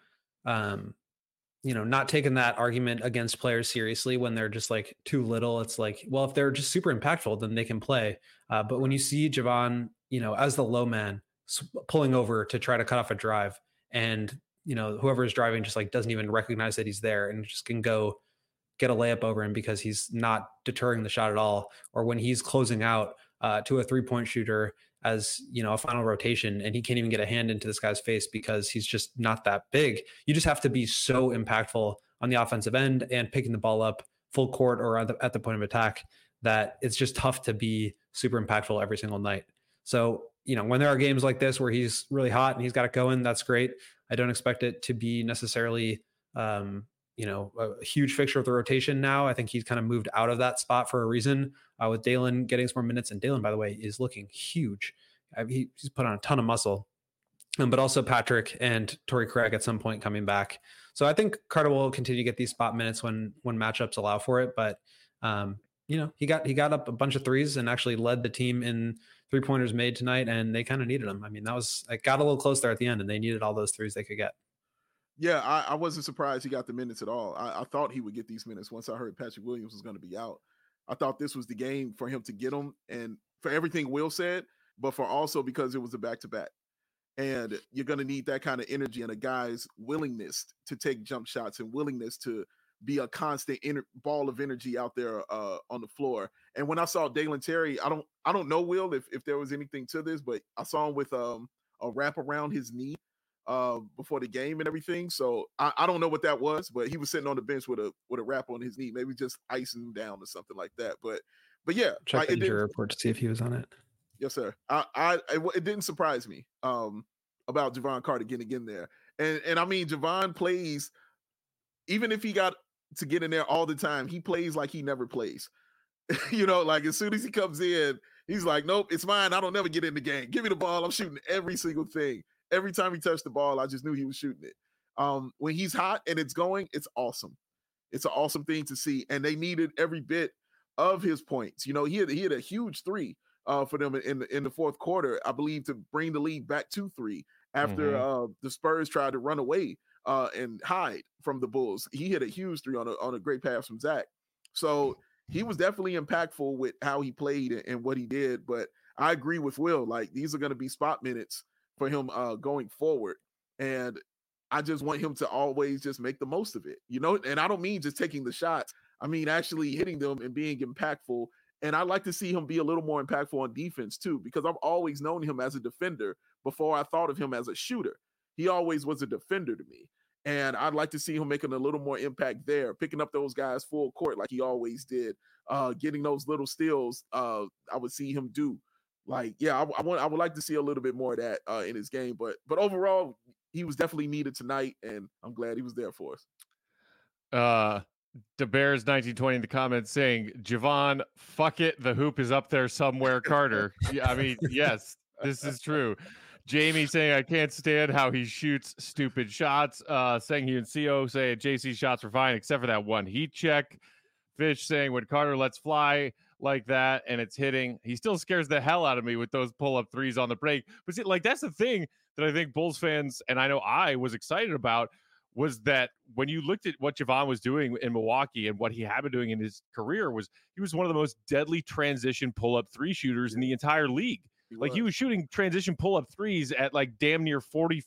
not taken that argument against players seriously when they're just like too little. It's like, well, if they're just super impactful, then they can play. But when you see Jevon, as the low man pulling over to try to cut off a drive, and whoever is driving just like doesn't even recognize that he's there and just can go get a layup over him because he's not deterring the shot at all, or when he's closing out to a 3-point shooter as a final rotation and he can't even get a hand into this guy's face because he's just not that big. You just have to be so impactful on the offensive end and picking the ball up full court or at the point of attack that it's just tough to be super impactful every single night. So, when there are games like this where he's really hot and he's got it going, that's great. I don't expect it to be necessarily, a huge fixture of the rotation now. I think he's kind of moved out of that spot for a reason, with Dalen getting some more minutes. And Dalen, by the way, is looking huge. He's put on a ton of muscle, but also Patrick and Torrey Craig at some point coming back. So I think Carter will continue to get these spot minutes when matchups allow for it. But, he got up a bunch of threes and actually led the team in 3-pointers made tonight, and they kind of needed them. I mean, it got a little close there at the end, and they needed all those threes they could get. Yeah, I wasn't surprised he got the minutes at all. I thought he would get these minutes once I heard Patrick Williams was going to be out. I thought this was the game for him to get them, and for everything Will said, but for also because it was a back-to-back. And you're going to need that kind of energy and a guy's willingness to take jump shots and willingness to be a constant ball of energy out there on the floor. And when I saw Dalen Terry, I don't know, Will, if there was anything to this, but I saw him with a wrap around his knee before the game and everything. So I don't know what that was, but he was sitting on the bench with a wrap on his knee, maybe just icing him down or something like that. But yeah, check the injury report to see if he was on it. Yes, sir. It didn't surprise me about Jevon Carter getting in there. And I mean, Jevon plays, even if he got to get in there all the time, he plays like he never plays. Like as soon as he comes in, he's like, nope, it's mine. I don't never get in the game. Give me the ball. I'm shooting every single thing. Every time he touched the ball, I just knew he was shooting it. When he's hot and it's going, it's awesome. It's an awesome thing to see. And they needed every bit of his points. He had a huge 3 for them in the fourth quarter, I believe, to bring the lead back to 3 after the Spurs tried to run away and hide from the Bulls. He hit a huge 3 on a great pass from Zach. So he was definitely impactful with how he played and what he did. But I agree with Will. Like, these are going to be spot minutes for him going forward. And I just want him to always just make the most of it, and I don't mean just taking the shots. I mean, actually hitting them and being impactful. And I'd like to see him be a little more impactful on defense too, because I've always known him as a defender before I thought of him as a shooter. He always was a defender to me. And I'd like to see him making a little more impact there, picking up those guys full court like he always did, getting those little steals I would see him do. Like, yeah, I would like to see a little bit more of that in his game. But overall, he was definitely needed tonight, and I'm glad he was there for us. The Bears 1920 in the comments saying, Jevon, fuck it, the hoop is up there somewhere, Carter. Yeah, I mean, yes, this is true. Jamie saying, I can't stand how he shoots stupid shots. Saying he and CO say JC shots were fine, except for that one heat check. Fish saying, when Carter lets fly like that and it's hitting, he still scares the hell out of me with those pull-up threes on the break. But see, like, that's the thing that I think Bulls fans, and I know I was excited about, was that when you looked at what Jevon was doing in Milwaukee and what he had been doing in his career, he was one of the most deadly transition pull-up 3 shooters in the entire league. He was shooting transition pull-up threes at like damn near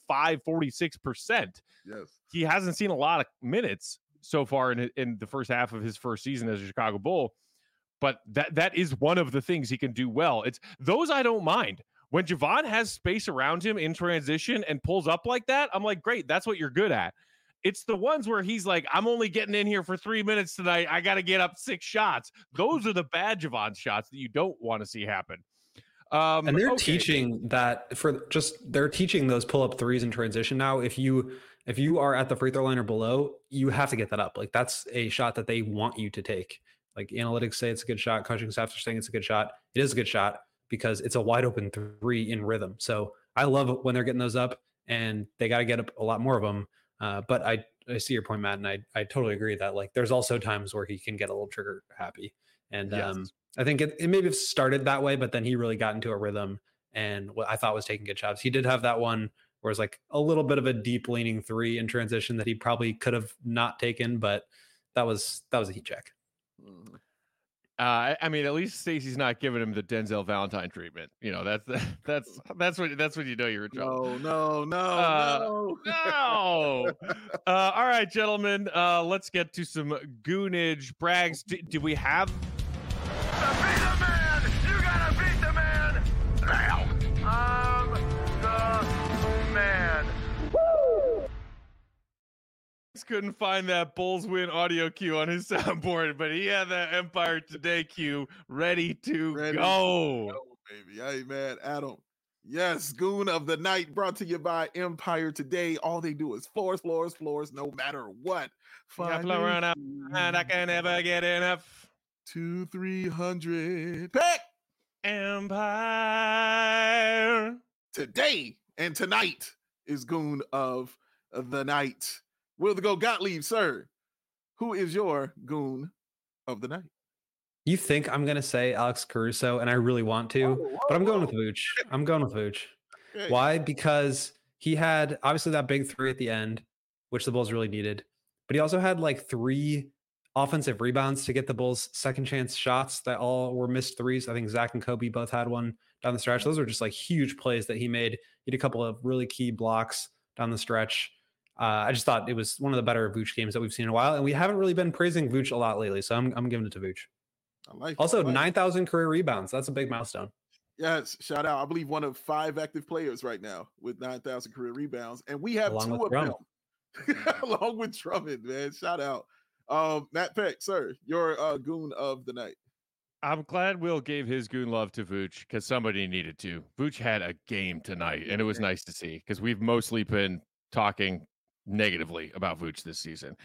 45-46%. Yes. He hasn't seen a lot of minutes so far in the first half of his first season as a Chicago Bull, but that is one of the things he can do well. It's those I don't mind. When Javon has space around him in transition and pulls up like that, I'm like, great, that's what you're good at. It's the ones where he's like, I'm only getting in here for 3 minutes tonight. I got to get up 6 shots. Those are the bad Javon shots that you don't want to see happen. And they're teaching that they're teaching those pull-up threes in transition now. If you are at the free throw line or below, you have to get that up. Like that's a shot that they want you to take. Like analytics say it's a good shot. Coaching staff are saying it's a good shot. It is a good shot because it's a wide open 3 in rhythm. So I love when they're getting those up, and they got to get up a lot more of them. But I see your point, Matt, and I totally agree that like there's also times where he can get a little trigger happy. And yes. I think it maybe started that way, but then he really got into a rhythm and what I thought was taking good shots. He did have that one where it's like a little bit of a deep leaning 3 in transition that he probably could have not taken, but that was a heat check. I mean, at least Stacey's not giving him the Denzel Valentine treatment. You know, that's when you know you're in trouble. No. All right, gentlemen, let's get to some goonage. Braggs, do we have? To be the man, you gotta beat the man now. I'm the man. Woo! Couldn't find that Bulls win audio cue on his soundboard, but he had that Empire Today cue ready to go. Baby. Hey, man, Adam. Yes, Goon of the Night brought to you by Empire Today. All they do is floors, no matter what. And I can never get enough. 200-300. Pick Empire. Today and tonight is Goon of the Night. Will the Go Gottlieb, sir? Who is your Goon of the Night? You think I'm going to say Alex Caruso, and I really want to, but I'm going with Vooch. Okay. Why? Because he had obviously that big 3 at the end, which the Bulls really needed, but he also had like 3 offensive rebounds to get the Bulls second chance shots that all were missed 3s. I think Zach and Kobe both had one down the stretch. Those were just like huge plays that he made. He had a couple of really key blocks down the stretch. I just thought it was one of the better Vooch games that we've seen in a while, and we haven't really been praising Vooch a lot lately, so I'm giving it to Vooch. Also, 9,000 career rebounds. That's a big milestone. Yes, shout out. I believe one of 5 active players right now with 9,000 career rebounds, and we have 2 of them along with Drummond. Man, shout out. Matt Peck, sir, your Goon of the Night. I'm glad Will gave his goon love to Vooch because somebody needed to. Vooch had a game tonight, and it was nice to see because we've mostly been talking negatively about Vooch this season.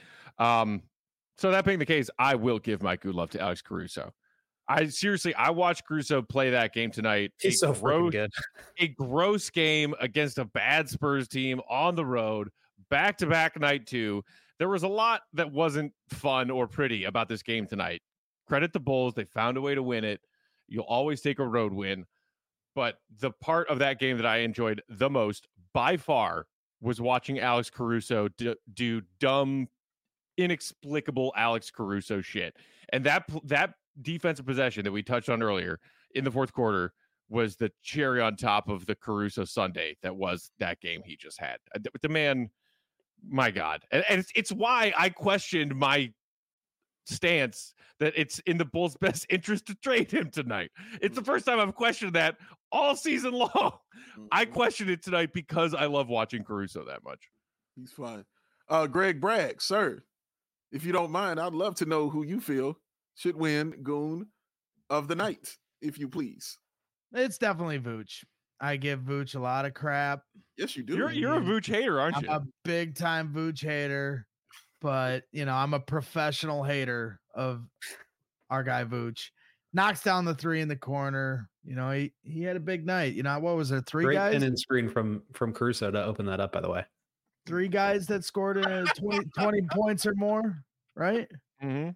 So that being the case, I will give my good love to Alex Caruso. I watched Caruso play that game tonight. He's so freaking good. A gross game against a bad Spurs team on the road, back-to-back night 2. There was a lot that wasn't fun or pretty about this game tonight. Credit the Bulls. They found a way to win it. You'll always take a road win. But the part of that game that I enjoyed the most, by far, was watching Alex Caruso do dumb, inexplicable Alex Caruso shit. And that defensive possession that we touched on earlier in the fourth quarter was the cherry on top of the Caruso Sunday that was that game he just had. The man, my God. And it's why I questioned my stance that it's in the Bulls' best interest to trade him tonight. It's the first time I've questioned that all season long. I questioned it tonight because I love watching Caruso that much. He's fine. Greg Bragg, sir, if you don't mind, I'd love to know who you feel should win Goon of the Night, if you please. It's definitely Vooch. I give Vooch a lot of crap. Yes, you do. You're a Vooch hater, aren't you? I'm a big time Vooch hater, but I'm a professional hater of our guy Vooch. Knocks down the 3 in the corner. He had a big night. What was there? 3 Great guys? Great pin and screen from Caruso to open that up, by the way. 3 guys that scored 20 points or more, right? Mm-hmm.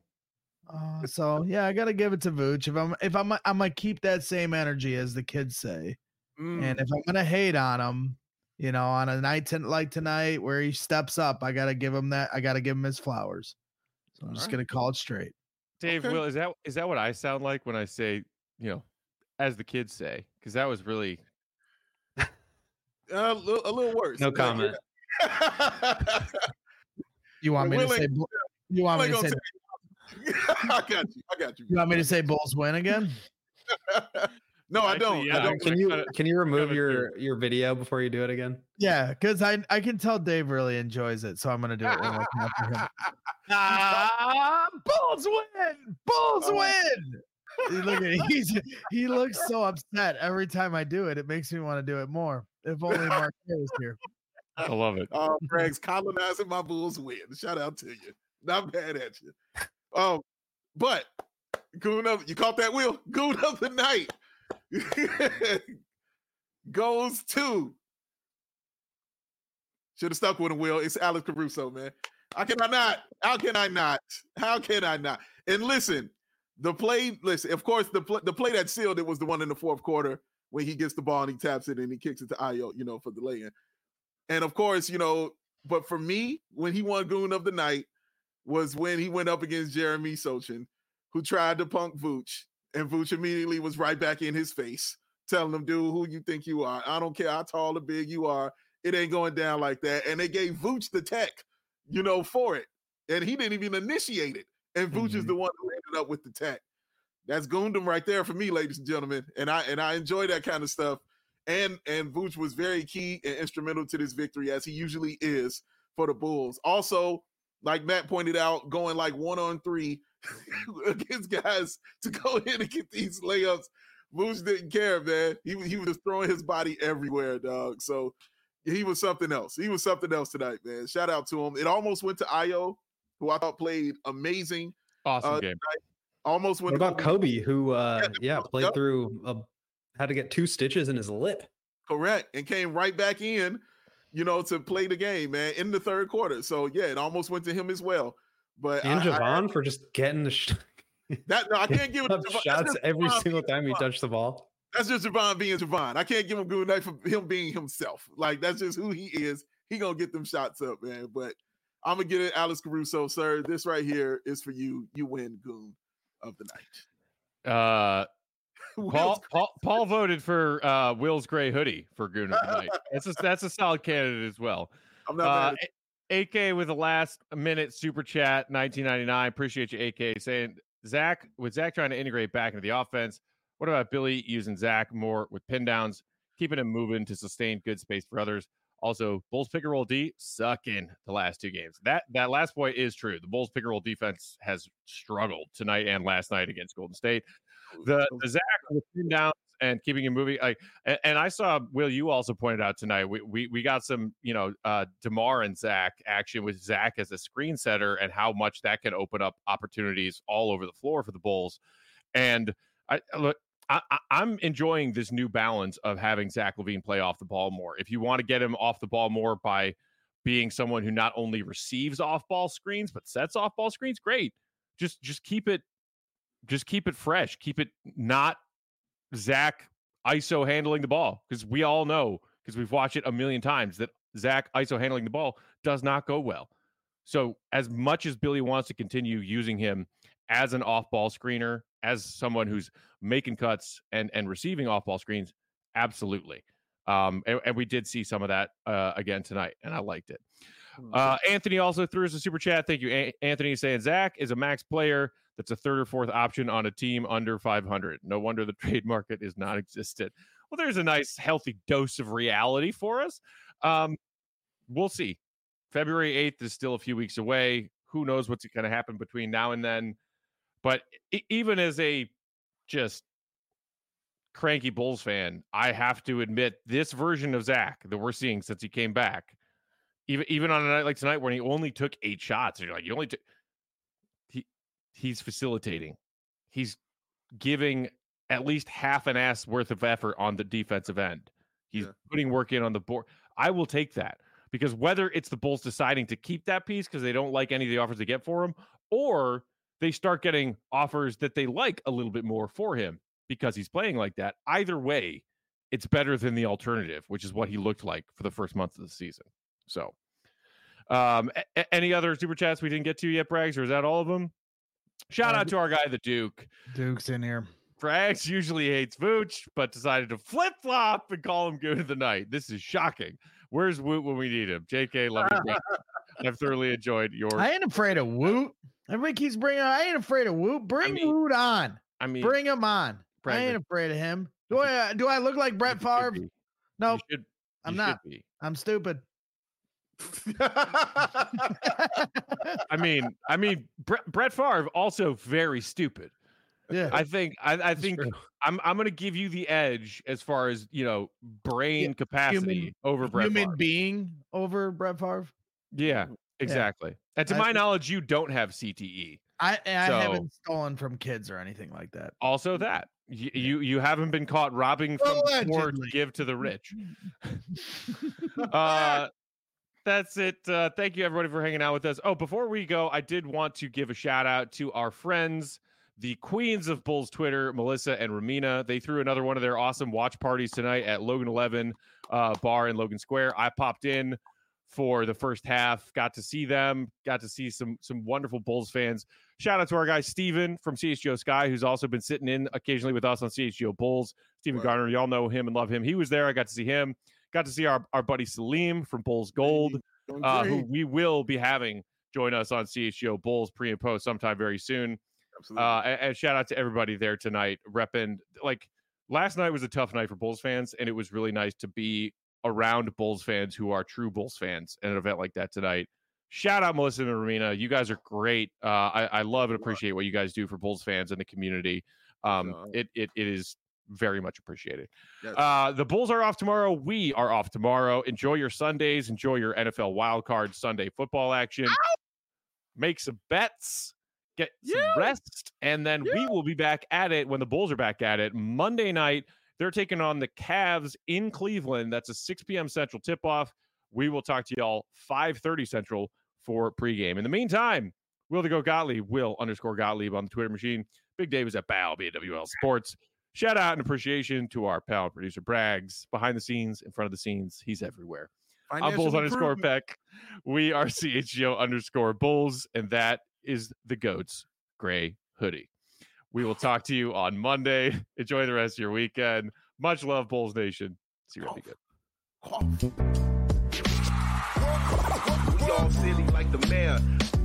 So yeah, I gotta give it to Vooch. I'm gonna keep that same energy, as the kids say. And if I'm gonna hate on him, on a night like tonight where he steps up, I gotta give him that. I gotta give him his flowers. So I'm just gonna call it straight. Dave, okay. Will, is that what I sound like when I say, as the kids say? Because that was really a little worse. No comment. You want me to say? You want me to say? I got you. You want me to say Bulls win again? No, I don't. Actually, yeah, I don't. Can you remove kinda your video before you do it again? Yeah, because I can tell Dave really enjoys it, so I'm gonna do it one more time for him. Bulls win! Bulls win! Look at he looks so upset every time I do it. It makes me want to do it more. If only Mark was here. I love it. Oh, Greg's colonizing my Bulls win. Shout out to you. Not bad at you. Oh, but goon of you caught that, Will? Goon of the night goes to. Should have stuck with him, Will. It's Alex Caruso, man. How can I not? How can I not? How can I not? And listen, of course, the play that sealed it was the one in the fourth quarter when he gets the ball and he taps it and he kicks it to Ayo, for the lay-in. And of course, but for me, when he won Goon of the Night was when he went up against Jeremy Sochin, who tried to punk Vooch, and Vooch immediately was right back in his face, telling him, dude, who you think you are? I don't care how tall or big you are. It ain't going down like that. And they gave Vooch the tech, for it. And he didn't even initiate it. And Vooch is the one who ended up with the tech. That's Goondom right there for me, ladies and gentlemen. And I enjoy that kind of stuff. And Vooch was very key and instrumental to this victory, as he usually is for the Bulls. Also, like Matt pointed out, going like 1-on-3 against guys to go in and get these layups. Vooch didn't care, man. He was just throwing his body everywhere, dog. So he was something else. He was something else tonight, man. Shout out to him. It almost went to Ayo, who I thought played amazing. Awesome game. Tonight. Almost went. What about Kobe, who played through had to get 2 stitches in his lip. Correct, and came right back in, to play the game, man, in the third quarter. So yeah, it almost went to him as well. But Javon for just getting the I can't give it shots every single time he touched the ball. That's just Javon being Javon. I can't give him good night for him being himself. Like, that's just who he is. He gonna get them shots up, man. But I'm gonna get it, Alex Caruso, sir. This right here is for you. You win Goon of the Night. Paul voted for Will's gray hoodie for Goon of the Night. That's a solid candidate as well. I'm not AK with the last minute super chat, 1999. Appreciate you, AK, saying Zach trying to integrate back into the offense. What about Billy using Zach more with pin downs, keeping him moving to sustain good space for others? Also, Bulls pick and roll D sucking the last 2 games. That last point is true. The Bulls pick and roll defense has struggled tonight and last night against Golden State. The Zach with pin downs and keeping him moving. And I saw, Will, you also pointed out tonight, we got some, DeMar and Zach action with Zach as a screen setter and how much that can open up opportunities all over the floor for the Bulls. And I'm enjoying this new balance of having Zach LaVine play off the ball more. If you want to get him off the ball more by being someone who not only receives off ball screens, but sets off ball screens, great. Just keep it fresh. Keep it not Zach ISO handling the ball, because we all know, because we've watched it a million times, that Zach ISO handling the ball does not go well. So as much as Billy wants to continue using him as an off-ball screener, as someone who's making cuts and receiving off-ball screens, absolutely. And we did see some of that again tonight, and I liked it. Anthony also threw us a super chat. Thank you, Anthony, saying Zach is a max player that's a 3rd or 4th option on a team under 500. No wonder the trade market is non-existent. Well, there's a nice, healthy dose of reality for us. We'll see. February 8th is still a few weeks away. Who knows what's going to happen between now and then? But even as a just cranky Bulls fan, I have to admit this version of Zach that we're seeing since he came back, even on a night like tonight when he only took 8 shots, and you're like, you only took. He's facilitating. He's giving at least half an ass worth of effort on the defensive end. He's putting work in on the board. I will take that, because whether it's the Bulls deciding to keep that piece because they don't like any of the offers they get for him, or they start getting offers that they like a little bit more for him because he's playing like that, either way, it's better than the alternative, which is what he looked like for the first month of the season. So any other super chats we didn't get to yet, Braggs, or is that all of them? Shout out to our guy, the Duke. Duke's in here. Braggs usually hates Vooch, but decided to flip-flop and call him Goon of the Night. This is shocking. Where's Woot when we need him? JK, love you. I've thoroughly enjoyed your... I ain't afraid of Woot. Everybody keeps bringing. I ain't afraid of Woot. Bring Woot on. I mean, bring him on. I ain't afraid of him. Do I look like Brett Favre? No, I'm not. I'm stupid. I mean, Brett Favre also very stupid. Yeah, I think I'm going to give you the edge as far as brain capacity over Brett Favre. Human being over Brett Favre. Yeah, exactly. Yeah. And to my knowledge, you don't have CTE. I haven't stolen from kids or anything like that. Also, that you haven't been caught robbing from the poor to give to the rich. That's it. Thank you, everybody, for hanging out with us. Oh, before we go, I did want to give a shout out to our friends, the queens of Bulls Twitter, Melissa and Ramina. They threw another one of their awesome watch parties tonight at Logan 11 bar in Logan Square. I popped in for the first half, got to see them, got to see some wonderful Bulls fans. Shout out to our guy Steven from CHGO Sky, who's also been sitting in occasionally with us on CHGO Bulls. Steven Garner, y'all know him and love him. He was there. I got to see him. Got to see our buddy Salim from Bulls Gold, who we will be having join us on CHGO Bulls pre and post sometime very soon. Absolutely. And shout out to everybody there tonight. Repping, last night was a tough night for Bulls fans, and it was really nice to be around Bulls fans who are true Bulls fans at an event like that tonight. Shout out Melissa and Ramina. You guys are great. I love and appreciate what you guys do for Bulls fans and the community. It is very much appreciated. Yes. The Bulls are off tomorrow. We are off tomorrow. Enjoy your Sundays. Enjoy your NFL wildcard Sunday football action. Ow! Make some bets. Get some rest. And then we will be back at it when the Bulls are back at it. Monday night, they're taking on the Cavs in Cleveland. That's a 6 p.m. Central tip-off. We will talk to y'all 5:30 Central for pregame. In the meantime, Will the Go Gottlieb, Will_Gottlieb on the Twitter machine. Big Dave is at BAL, BAWL Sports. Shout out and appreciation to our pal producer Braggs. Behind the scenes, in front of the scenes, he's everywhere. I'm Bulls_Peck. We are CHGO_Bulls, and that is the GOAT's gray hoodie. We will talk to you on Monday. Enjoy the rest of your weekend. Much love, Bulls Nation. See you. Be good. We all silly like the mayor.